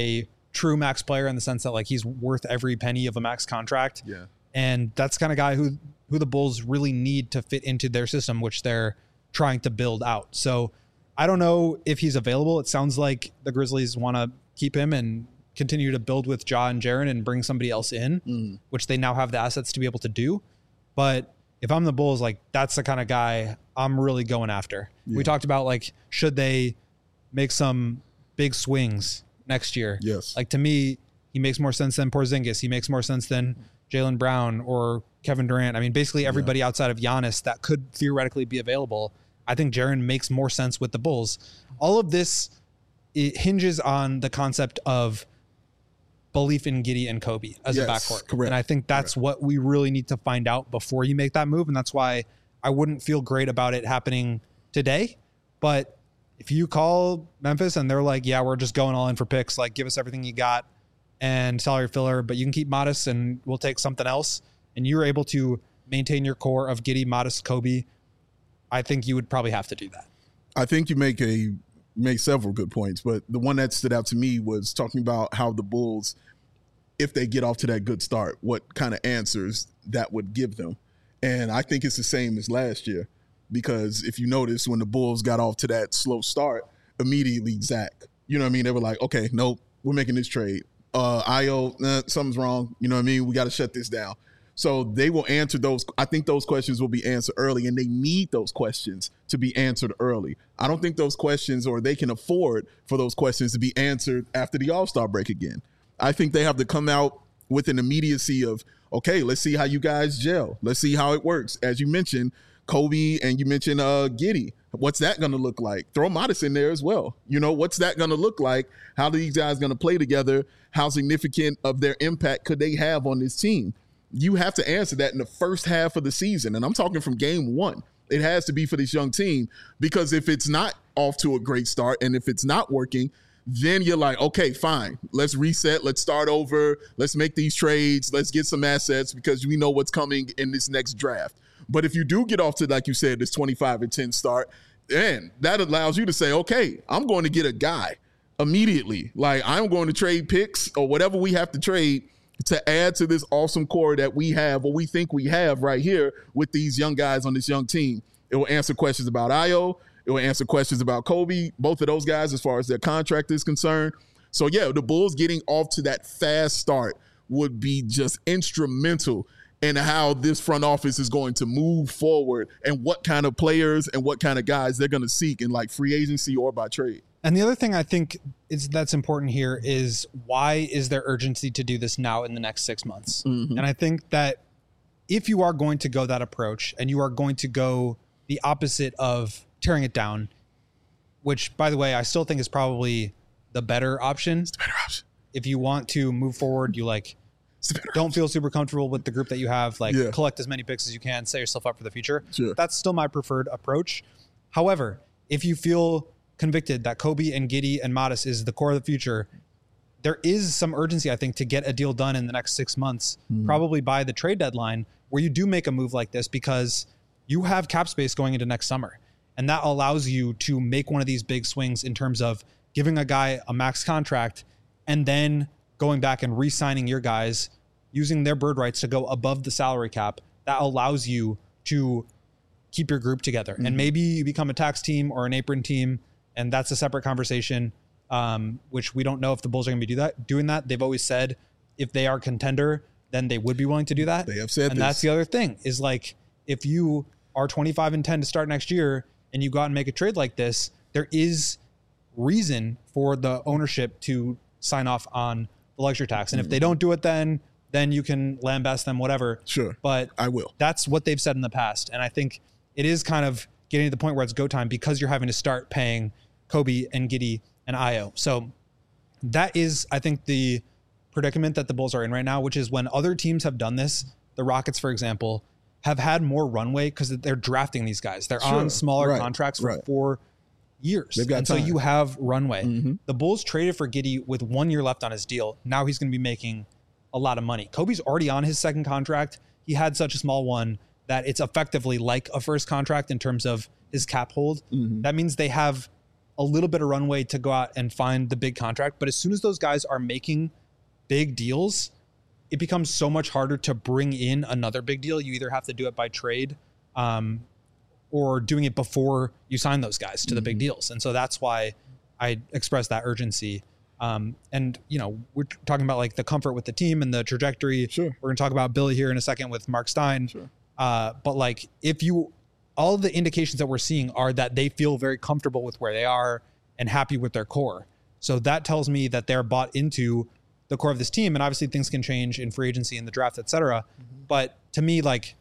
true max player in the sense that like he's worth every penny of a max contract. Yeah. And that's the kind of guy who who the Bulls really need to fit into their system, which they're trying to build out. So I don't know if he's available. It sounds like the Grizzlies want to keep him and continue to build with Ja and Jaren and bring somebody else in, mm. which they now have the assets to be able to do. But if I'm the Bulls, like that's the kind of guy I'm really going after. Yeah. We talked about like, should they make some big swings next year? Yes. Like to me, he makes more sense than Porzingis. He makes more sense than Jaylen Brown or Kevin Durant. I mean, basically everybody yeah. outside of Giannis that could theoretically be available. I think Jaren makes more sense with the Bulls. All of this, it hinges on the concept of belief in Giddey and Kobe as yes, a backcourt. Correct. And I think that's correct. What we really need to find out before you make that move. And that's why I wouldn't feel great about it happening today. But if you call Memphis and they're like, yeah, we're just going all in for picks, like give us everything you got and salary filler, but you can keep Modest and we'll take something else. And you're able to maintain your core of Giddey, Modest, Kobe. I think you would probably have to do that. I think you make a make several good points, but the one that stood out to me was talking about how the Bulls, if they get off to that good start, what kind of answers that would give them. And I think it's the same as last year, because if you notice, when the Bulls got off to that slow start, immediately Zach, you know what I mean? They were like, okay, nope, we're making this trade. Uh, Io, nah, something's wrong. You know what I mean? We got to shut this down. So they will answer those. I think those questions will be answered early, and they need those questions to be answered early. I don't think those questions, or they can afford for those questions to be answered after the All-Star break again. I think they have to come out with an immediacy of, okay, let's see how you guys gel. Let's see how it works. As you mentioned, Kobe, and you mentioned uh, Giddey. What's that going to look like? Throw Modest in there as well. You know, what's that going to look like? How are these guys going to play together? How significant of their impact could they have on this team? You have to answer that in the first half of the season. And I'm talking from game one. It has to be for this young team, because if it's not off to a great start and if it's not working, then you're like, okay, fine. Let's reset. Let's start over. Let's make these trades. Let's get some assets because we know what's coming in this next draft. But if you do get off to, like you said, this twenty-five and ten start, then that allows you to say, okay, I'm going to get a guy immediately. Like I'm going to trade picks or whatever we have to trade to add to this awesome core that we have, or we think we have right here with these young guys on this young team. It will answer questions about Io. It will answer questions about Kobe, both of those guys as far as their contract is concerned. So, yeah, the Bulls getting off to that fast start would be just instrumental in how this front office is going to move forward and what kind of players and what kind of guys they're going to seek in like free agency or by trade. And the other thing I think is that's important here is, why is there urgency to do this now in the next six months? Mm-hmm. And I think that if you are going to go that approach and you are going to go the opposite of tearing it down, which, by the way, I still think is probably the better option. It's the better option. If you want to move forward, you like don't option. feel super comfortable with the group that you have, like yeah. collect as many picks as you can, set yourself up for the future. Sure. That's still my preferred approach. However, if you feel convicted that Kobe and Giddey and Modest is the core of the future, there is some urgency, I think, to get a deal done in the next six months, mm. probably by the trade deadline, where you do make a move like this, because you have cap space going into next summer. And that allows you to make one of these big swings in terms of giving a guy a max contract and then going back and re-signing your guys, using their bird rights to go above the salary cap. That allows you to keep your group together. Mm-hmm. And maybe you become a tax team or an apron team, and that's a separate conversation, um, which we don't know if the Bulls are going to be do that, doing that. They've always said if they are a contender, then they would be willing to do that. They have said and this. That's the other thing, is like, if you are twenty-five and ten to start next year and you go out and make a trade like this, there is reason for the ownership to sign off on the luxury tax. And mm-hmm. if they don't do it, then then you can lambast them, whatever. Sure. But I will. That's what they've said in the past. And I think it is kind of getting to the point where it's go time, because you're having to start paying Kobe and Giddey and Io. So that is, I think, the predicament that the Bulls are in right now, which is when other teams have done this, the Rockets, for example, have had more runway because they're drafting these guys. They're sure. on smaller right. contracts for right. four years. They've got and time. So you have runway. Mm-hmm. The Bulls traded for Giddey with one year left on his deal. Now he's going to be making a lot of money. Kobe's already on his second contract. He had such a small one that it's effectively like a first contract in terms of his cap hold. Mm-hmm. That means they have a little bit of runway to go out and find the big contract. But as soon as those guys are making big deals, it becomes so much harder to bring in another big deal. You either have to do it by trade um, or doing it before you sign those guys to mm-hmm. the big deals. And so that's why I express that urgency. Um, and, you know, we're talking about like the comfort with the team and the trajectory. Sure. We're going to talk about Billy here in a second with Mark Stein. Sure. Uh, but like if you, all the indications that we're seeing are that they feel very comfortable with where they are and happy with their core. So that tells me that they're bought into the core of this team. And obviously things can change in free agency and the draft, et cetera. Mm-hmm. But to me, like,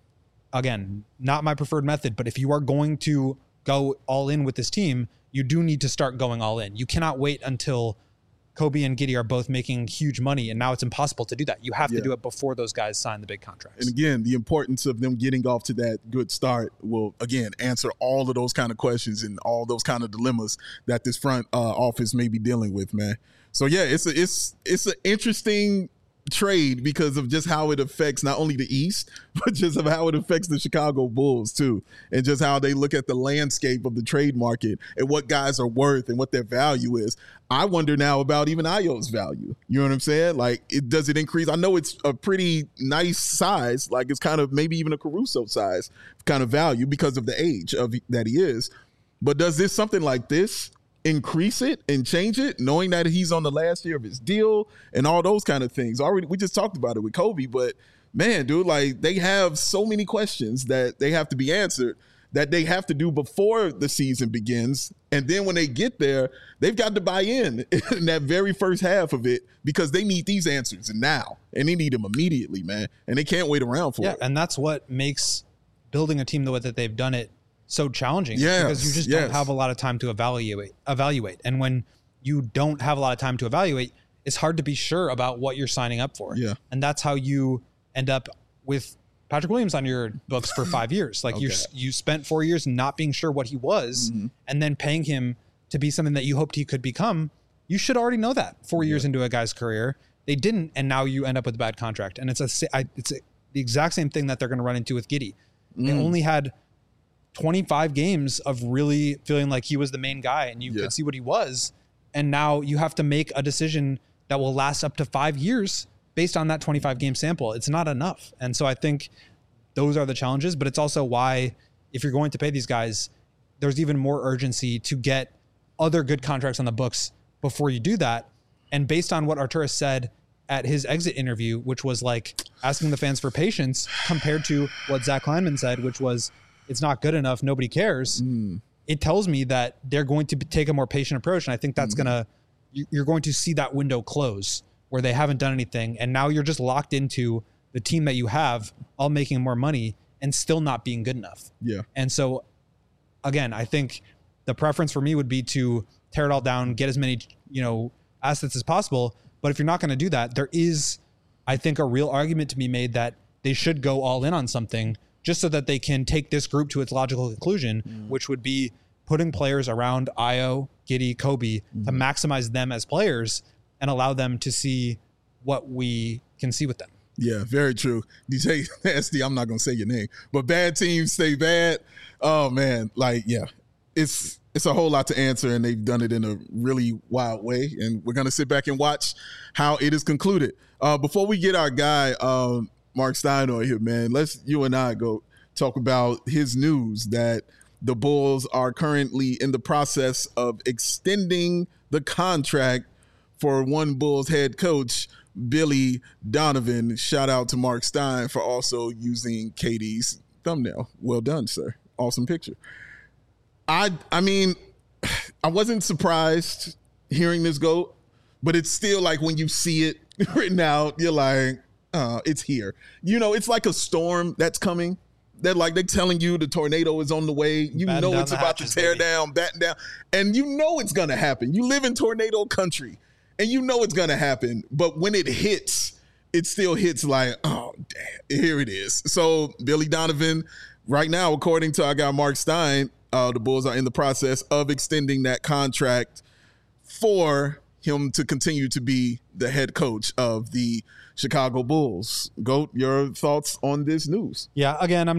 again, not my preferred method, but if you are going to go all in with this team, you do need to start going all in. You cannot wait until Kobe and Giddey are both making huge money, and now it's impossible to do that. You have yeah. to do it before those guys sign the big contracts. And again, the importance of them getting off to that good start will, again, answer all of those kind of questions and all those kind of dilemmas that this front uh, office may be dealing with, man. So, yeah, it's a, it's it's an interesting trade because of just how it affects not only the East, but just of how it affects the Chicago Bulls too, and just how they look at the landscape of the trade market and what guys are worth and what their value is. I wonder now about even Ayo's value. You know what I'm saying? Like, it does it increase? I know it's a pretty nice size, like it's kind of maybe even a Caruso size kind of value because of the age of that he is. But does this something like this increase it and change it, knowing that he's on the last year of his deal and all those kind of things? Already, we just talked about it with Kobe, but man, dude, like they have so many questions that they have to be answered that they have to do before the season begins. And then when they get there, they've got to buy in in that very first half of it because they need these answers now and they need them immediately, man. And they can't wait around for yeah, it. And that's what makes building a team the way that they've done it so challenging. Yes, because you just yes. don't have a lot of time to evaluate evaluate. And when you don't have a lot of time to evaluate, it's hard to be sure about what you're signing up for. Yeah. And that's how you end up with Patrick Williams on your books for five years. Like okay. you you spent four years not being sure what he was mm-hmm. and then paying him to be something that you hoped he could become. You should already know that four yeah. years into a guy's career. They didn't, and now you end up with a bad contract. And it's a it's a, the exact same thing that they're going to run into with Giddey. Mm. They only had twenty-five games of really feeling like he was the main guy and you yeah. could see what he was. And now you have to make a decision that will last up to five years based on that twenty-five game sample. It's not enough. And so I think those are the challenges, but it's also why if you're going to pay these guys, there's even more urgency to get other good contracts on the books before you do that. And based on what Arturas said at his exit interview, which was like asking the fans for patience compared to what Zach Kleiman said, which was, it's not good enough, nobody cares. Mm. It tells me that they're going to take a more patient approach. And I think that's mm. going to, you're going to see that window close where they haven't done anything. And now you're just locked into the team that you have all making more money and still not being good enough. Yeah. And so again, I think the preference for me would be to tear it all down, get as many, you know, assets as possible. But if you're not going to do that, there is, I think, a real argument to be made that they should go all in on something just so that they can take this group to its logical conclusion, mm. which would be putting players around Ayo, Giddey, Kobe mm. to maximize them as players and allow them to see what we can see with them. Yeah, very true. D J S D, I'm not going to say your name, but bad teams stay bad. Oh, man. Like, yeah, it's it's a whole lot to answer, and they've done it in a really wild way, and we're going to sit back and watch how it is concluded. Uh, before we get our guy, um, Mark Stein on here, man, let's you and I go talk about his news that the Bulls are currently in the process of extending the contract for one Bulls head coach, Billy Donovan. Shout out to Mark Stein for also using K D's thumbnail. Well done, sir. Awesome picture. I I mean, I wasn't surprised hearing this go, but it's still like when you see it written out, you're like, uh, it's here. You know, it's like a storm that's coming. They're like, they're telling you the tornado is on the way. You batten know it's about hatches, to tear baby. down, batten down. And you know it's going to happen. You live in tornado country, and you know it's going to happen. But when it hits, it still hits like, oh, damn, here it is. So Billy Donovan, right now, according to our guy Mark Stein, uh, the Bulls are in the process of extending that contract for him to continue to be the head coach of the Chicago Bulls. Goat, your thoughts on this news? Yeah, again, I'm not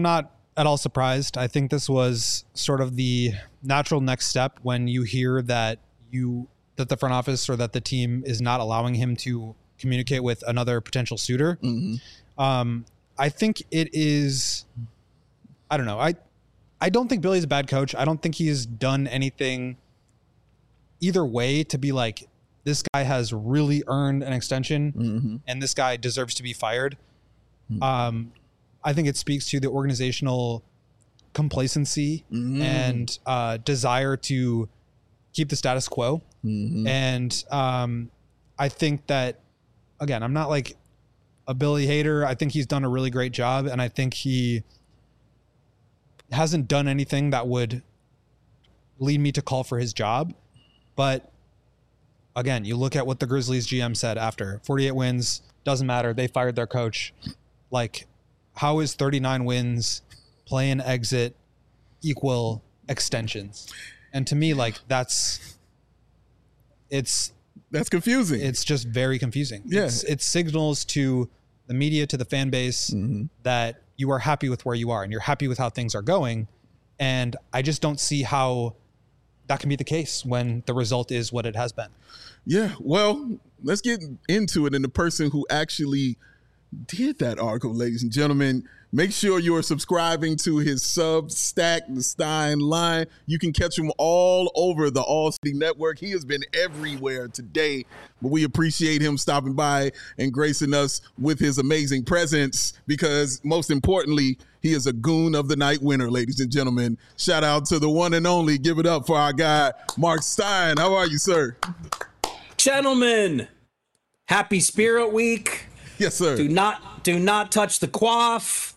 at all surprised. I think this was sort of the natural next step when you hear that you that the front office or that the team is not allowing him to communicate with another potential suitor. Mm-hmm. Um, I think it is, I don't know. I, I don't think Billy's a bad coach. I don't think he's done anything either way to be like, this guy has really earned an extension mm-hmm. and this guy deserves to be fired. Mm-hmm. Um, I think it speaks to the organizational complacency mm-hmm. and uh, desire to keep the status quo. Mm-hmm. And um, I think that, again, I'm not like a Billy hater. I think he's done a really great job. And I think he hasn't done anything that would lead me to call for his job. But again, you look at what the Grizzlies G M said after forty-eight wins, doesn't matter. They fired their coach. Like, how is thirty-nine wins, play and exit equal extensions? And to me, like, that's, it's, that's confusing. It's just very confusing. Yeah. It's, it signals to the media, to the fan base mm-hmm. that you are happy with where you are and you're happy with how things are going. And I just don't see how that can be the case when the result is what it has been. Yeah. Well, let's get into it. And the person who actually did that article, ladies and gentlemen, make sure you're subscribing to his Substack, The Stein Line. You can catch him all over the All City Network. He has been everywhere today, but we appreciate him stopping by and gracing us with his amazing presence because, most importantly, he is a goon of the night winner, ladies and gentlemen. Shout out to the one and only. Give it up for our guy, Mark Stein. How are you, sir? Gentlemen, happy Spirit Week. Yes, sir. Do not do not touch the quaff.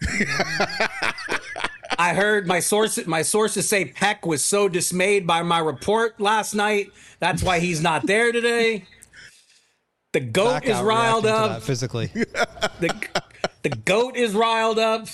I heard my sources my sources say Peck was so dismayed by my report last night. That's why he's not there today. The goat is riled up physically. The the goat is riled up.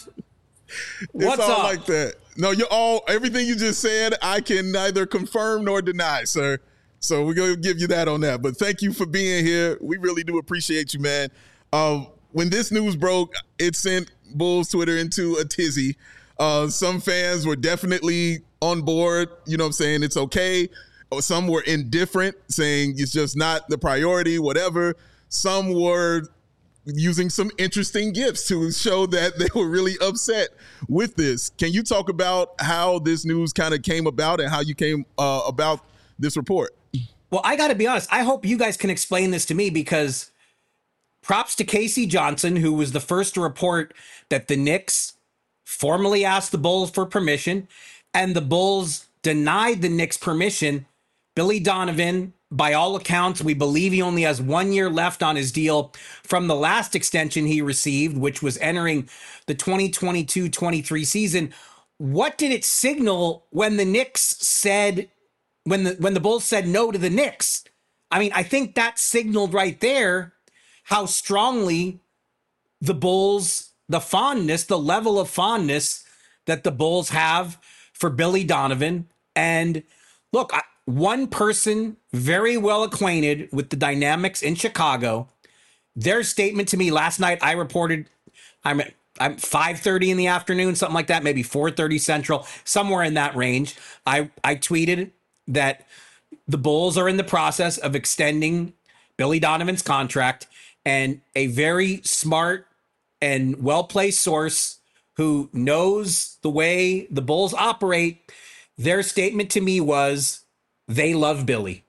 What's it's all up? Like that. No, you're all everything you just said. I can neither confirm nor deny, sir. So we're gonna give you that on that. But thank you for being here. We really do appreciate you, man. Uh, when this news broke, it sent Bulls Twitter into a tizzy. Uh, some fans were definitely on board. You know what I'm saying? It's okay. Some were indifferent, saying it's just not the priority, whatever. Some were using some interesting gifts to show that they were really upset with this. Can you talk about how this news kind of came about and how you came uh, about this report? Well, I got to be honest. I hope you guys can explain this to me because props to Casey Johnson, who was the first to report that the Knicks formally asked the Bulls for permission and the Bulls denied the Knicks permission. Billy Donovan, by all accounts, we believe he only has one year left on his deal from the last extension he received, which was entering the twenty twenty-two twenty-three season. What did it signal when the Knicks said, when the when the Bulls said no to the Knicks? I mean, I think that signaled right there how strongly the Bulls, the fondness, the level of fondness that the Bulls have for Billy Donovan. And look, I, one person very well acquainted with the dynamics in Chicago, their statement to me last night, I reported, I'm I'm five thirty in the afternoon, something like that, maybe four thirty Central, somewhere in that range. I, I tweeted that the Bulls are in the process of extending Billy Donovan's contract, and a very smart and well-placed source who knows the way the Bulls operate, their statement to me was they love Billy.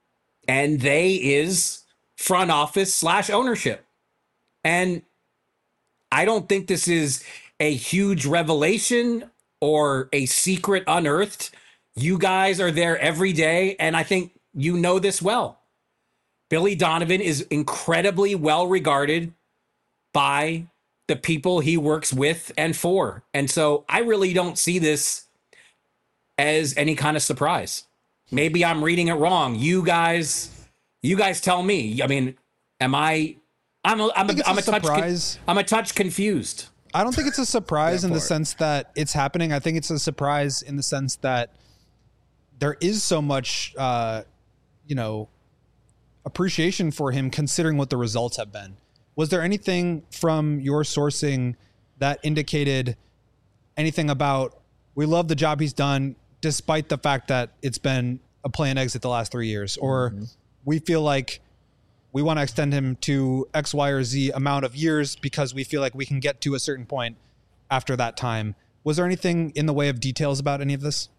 And they is front office slash ownership. And I don't think this is a huge revelation or a secret unearthed. You guys are there every day, and I think you know this well. Billy Donovan is incredibly well regarded by the people he works with and for. And so I really don't see this as any kind of surprise. Maybe I'm reading it wrong. You guys, you guys tell me. I mean, am I, I'm a, I'm a, I'm a, a touch, con, I'm a touch confused. I don't think it's a surprise in the sense that it's happening. I think it's a surprise in the sense that there is so much, uh, you know, appreciation for him considering what the results have been. Was there anything from your sourcing that indicated anything about, we love the job he's done, despite the fact that it's been a play and exit the last three years, or mm-hmm. we feel like we want to extend him to X, Y, or Z amount of years because we feel like we can get to a certain point after that time. Was there anything in the way of details about any of this?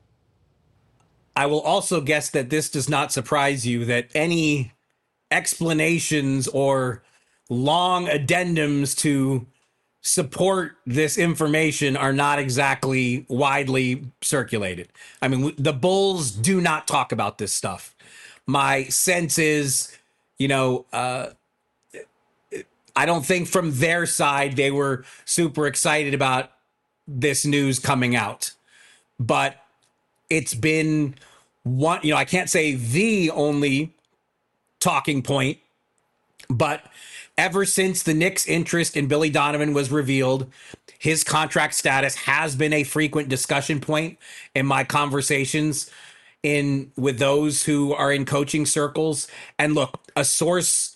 I will also guess that this does not surprise you that any explanations or long addendums to support this information are not exactly widely circulated. I mean, the Bulls do not talk about this stuff. My sense is, you know, uh, I don't think from their side they were super excited about this news coming out. But it's been one, you know, I can't say the only talking point, but ever since the Knicks' interest in Billy Donovan was revealed, his contract status has been a frequent discussion point in my conversations in with those who are in coaching circles. And look, a source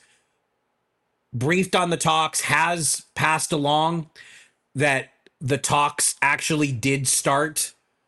briefed on the talks has passed along that the talks actually did start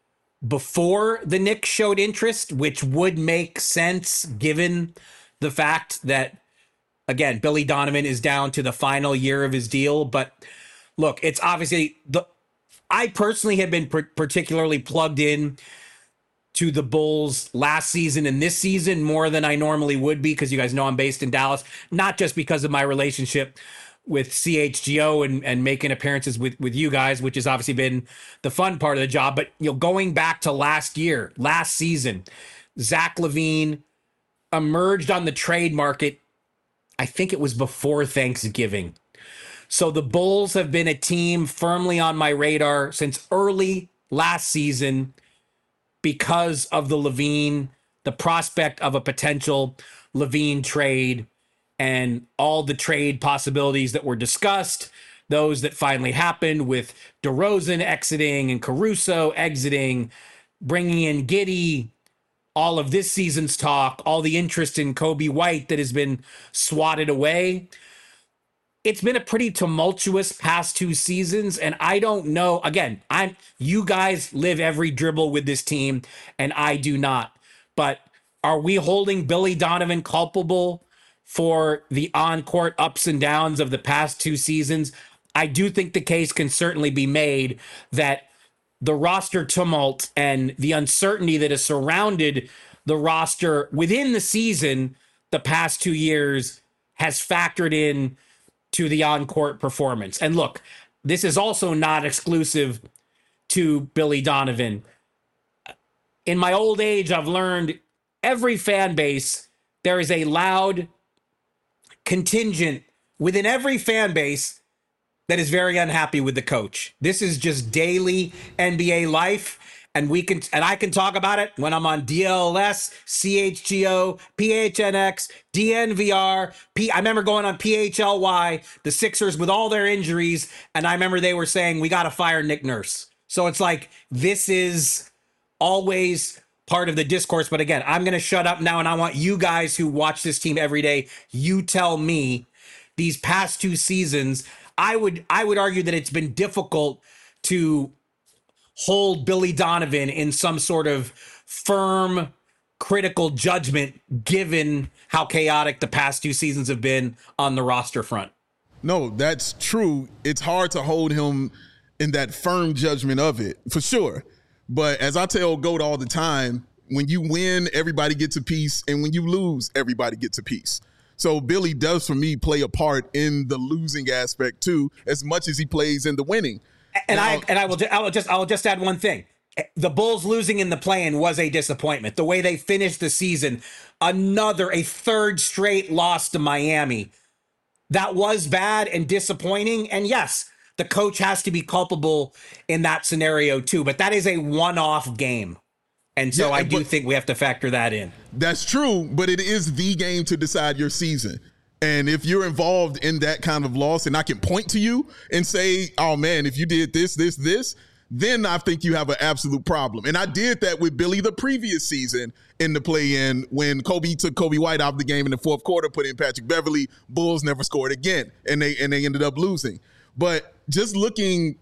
before the Knicks showed interest, which would make sense given the fact that, again, Billy Donovan is down to the final year of his deal. But look, it's obviously the I personally have been pr- particularly plugged in to the Bulls last season and this season more than I normally would be, because you guys know I'm based in Dallas, not just because of my relationship with C H G O and, and making appearances with, with you guys, which has obviously been the fun part of the job. But, you know, going back to last year, last season, Zach LaVine emerged on the trade market. I think it was before Thanksgiving. So the Bulls have been a team firmly on my radar since early last season because of the LaVine, the prospect of a potential LaVine trade, and all the trade possibilities that were discussed, those that finally happened with DeRozan exiting and Caruso exiting, bringing in Giddey, all of this season's talk, all the interest in Kobe White that has been swatted away. It's been a pretty tumultuous past two seasons, and I don't know. Again, I'm you guys live every dribble with this team, and I do not. But are we holding Billy Donovan culpable for the on-court ups and downs of the past two seasons? I do think the case can certainly be made that the roster tumult and the uncertainty that has surrounded the roster within the season the past two years has factored in to the on-court performance. And look, this is also not exclusive to Billy Donovan. In my old age, I've learned every fan base, there is a loud contingent within every fan base that is very unhappy with the coach. This is just daily N B A life, and we can and I can talk about it when I'm on D L S, C H G O, P H N X, D N V R. P, I remember going on P H L Y, the Sixers with all their injuries, and I remember they were saying, we got to fire Nick Nurse. So it's like, this is always part of the discourse. But again, I'm going to shut up now, and I want you guys who watch this team every day, you tell me, these past two seasons, I would I would argue that it's been difficult to hold Billy Donovan in some sort of firm, critical judgment, given how chaotic the past two seasons have been on the roster front. No, that's true. It's hard to hold him in that firm judgment of it, for sure. But as I tell Goat all the time, when you win, everybody gets a piece, and when you lose, everybody gets a piece. So Billy does, for me, play a part in the losing aspect too, as much as he plays in the winning. And now, I and I will I will just I will just add one thing. The Bulls losing in the play-in was a disappointment. The way they finished the season, another a third straight loss to Miami, that was bad and disappointing. And yes, the coach has to be culpable in that scenario too. But that is a one-off game. And so yeah, I do think we have to factor that in. That's true, but it is the game to decide your season. And if you're involved in that kind of loss, and I can point to you and say, oh man, if you did this, this, this, then I think you have an absolute problem. And I did that with Billy the previous season in the play-in when Kobe took Kobe White out of the game in the fourth quarter, put in Patrick Beverly. Bulls never scored again, and they and they ended up losing. But just looking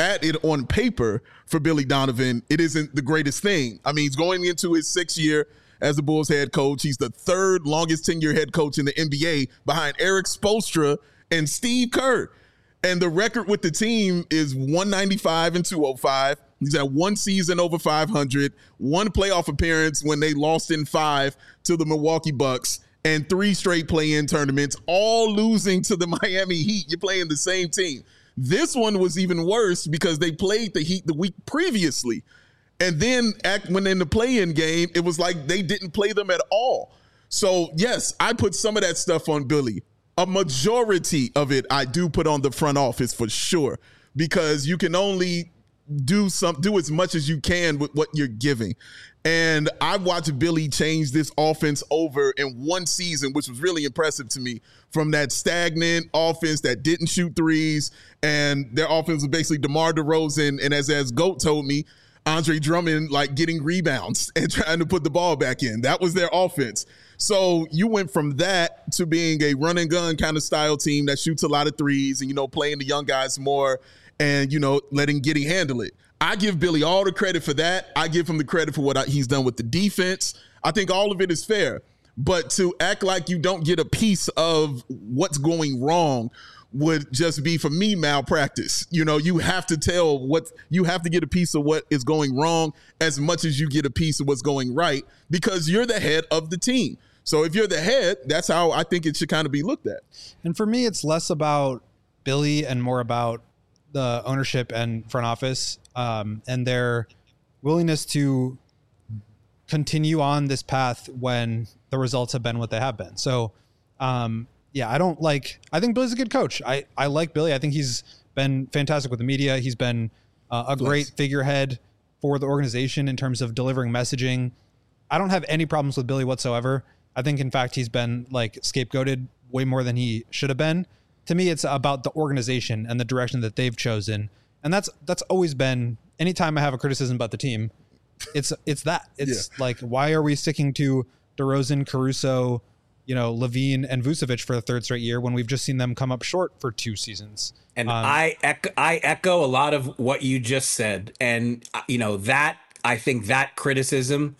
at it on paper for Billy Donovan, it isn't the greatest thing. I mean, he's going into his sixth year as the Bulls head coach. He's the third longest tenure head coach in the N B A behind Eric Spoelstra and Steve Kerr. And the record with the team is one ninety-five and two oh five. He's had one season over five hundred, one playoff appearance when they lost in five to the Milwaukee Bucks, and three straight play-in tournaments, all losing to the Miami Heat. You're playing the same team. This one was even worse because they played the Heat the week previously. And then when in the play-in game, it was like they didn't play them at all. So, yes, I put some of that stuff on Billy. A majority of it I do put on the front office for sure, because you can only do some do as much as you can with what you're giving. And I watched Billy change this offense over in one season, which was really impressive to me, from that stagnant offense that didn't shoot threes, and their offense was basically DeMar DeRozan, and as as Goat told me, Andre Drummond like getting rebounds and trying to put the ball back in. That was their offense. So you went from that to being a run and gun kind of style team that shoots a lot of threes and, you know, playing the young guys more and, you know, letting Giddey handle it. I give Billy all the credit for that. I give him the credit for what I, he's done with the defense. I think all of it is fair. But to act like you don't get a piece of what's going wrong would just be, for me, malpractice. You know, you have to tell what you have to get a piece of what is going wrong as much as you get a piece of what's going right, because you're the head of the team. So if you're the head, that's how I think it should kind of be looked at. And for me, it's less about Billy and more about the ownership and front office um, and their willingness to continue on this path when the results have been what they have been. So, um, yeah, I don't like, I think Billy's a good coach. I, I like Billy. I think he's been fantastic with the media. He's been uh, a great yes. figurehead for the organization in terms of delivering messaging. I don't have any problems with Billy whatsoever. I think, in fact, he's been like scapegoated way more than he should have been. To me, it's about the organization and the direction that they've chosen. And that's, that's always been, anytime I have a criticism about the team, it's, it's that it's yeah. like, why are we sticking to DeRozan, Caruso, you know, Levine and Vucevic for the third straight year when we've just seen them come up short for two seasons? And um, I echo, I echo a lot of what you just said. And, you know, that I think that criticism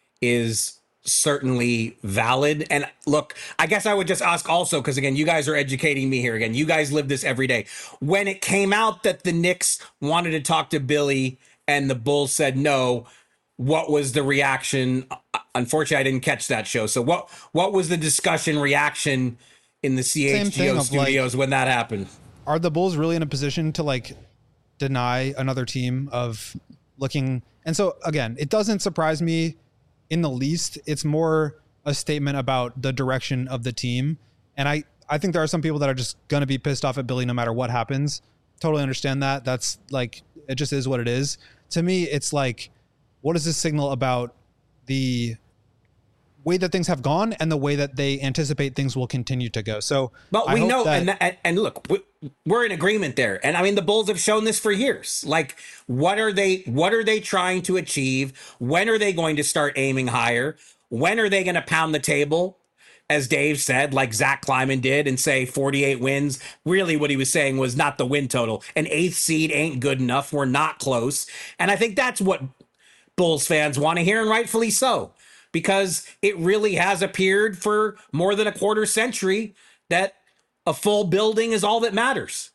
is certainly valid. And look, I guess I would just ask also, because again, you guys are educating me here again. You guys live this every day. When it came out that the Knicks wanted to talk to Billy and the Bulls said no, what was the reaction? Unfortunately, I didn't catch that show. So what what was the discussion reaction in the C H G O studios like, when that happened? Are the Bulls really in a position to like deny another team of looking? And so again, it doesn't surprise me in the least. It's more a statement about the direction of the team. And I, I think there are some people that are just going to be pissed off at Billy no matter what happens. Totally understand that. That's like, it just is what it is. To me, it's like, what does this signal about the way that things have gone and the way that they anticipate things will continue to go? So, but we know, that, and, and and look, we're in agreement there. And I mean, the Bulls have shown this for years. Like, what are they? What are they trying to achieve? When are they going to start aiming higher? When are they going to pound the table, as Dave said, like Zach Kleiman did, and say forty-eight wins? Really, what he was saying was not the win total. An eighth seed ain't good enough. We're not close. And I think that's what Bulls fans want to hear, and rightfully so, because it really has appeared for more than a quarter century that a full building is all that matters.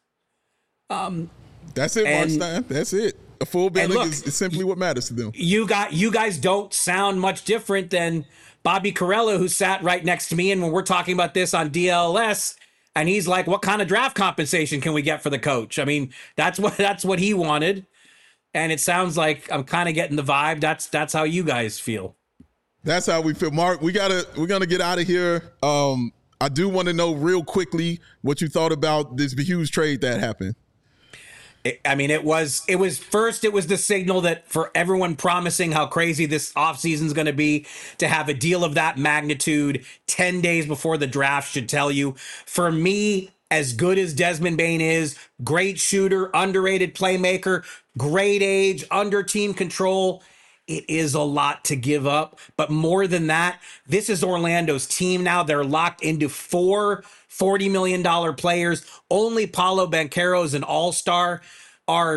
Um, That's it, Marstein. That's it. A full building look, is, is simply what matters to them. You got you guys don't sound much different than Bobby Carella, who sat right next to me, and when we're talking about this on D L S, and he's like, "What kind of draft compensation can we get for the coach?" I mean, that's what that's what he wanted. And it sounds like I'm kind of getting the vibe. That's that's how you guys feel. That's how we feel. Mark, we gotta we're gonna get out of here. Um, I do want to know real quickly what you thought about this huge trade that happened. It, I mean, it was it was first, it was the signal that for everyone promising how crazy this offseason is going to be, to have a deal of that magnitude ten days before the draft should tell you. For me, as good as Desmond Bane is, great shooter, underrated playmaker, great age, under team control, it is a lot to give up. But more than that, this is Orlando's team now. They're locked into four forty million dollars players. Only Paolo Banchero is an all-star. Our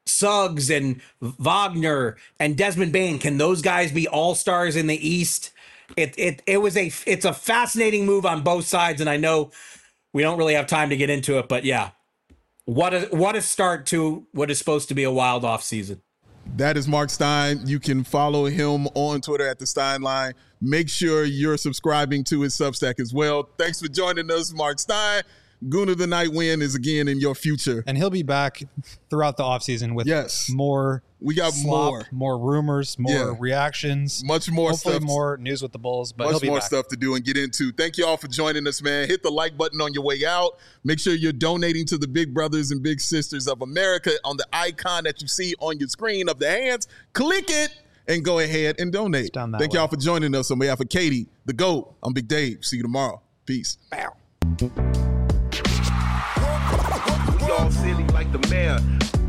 Suggs and Wagner and Desmond Bain, can those guys be all-stars in the East? It it it was a it's a fascinating move on both sides, and I know we don't really have time to get into it, but yeah, what a what a start to what is supposed to be a wild off season. That is Mark Stein. You can follow him on Twitter at the Stein Line. Make sure you're subscribing to his Substack as well. Thanks for joining us, Mark Stein. Goon of the Night win is again in your future. And he'll be back throughout the offseason with yes. more We got slop, more. more rumors, more Yeah. reactions. Much more hopefully stuff. more news with the Bulls, but he'll Much be more back. stuff to do and get into. Thank you all for joining us, man. Hit the like button on your way out. Make sure you're donating to the Big Brothers and Big Sisters of America on the icon that you see on your screen of the hands. Click it and go ahead and donate. down that Thank way. y'all for joining us on behalf of Katie, the GOAT. I'm Big Dave. See you tomorrow. Peace. Y'all silly like the mayor.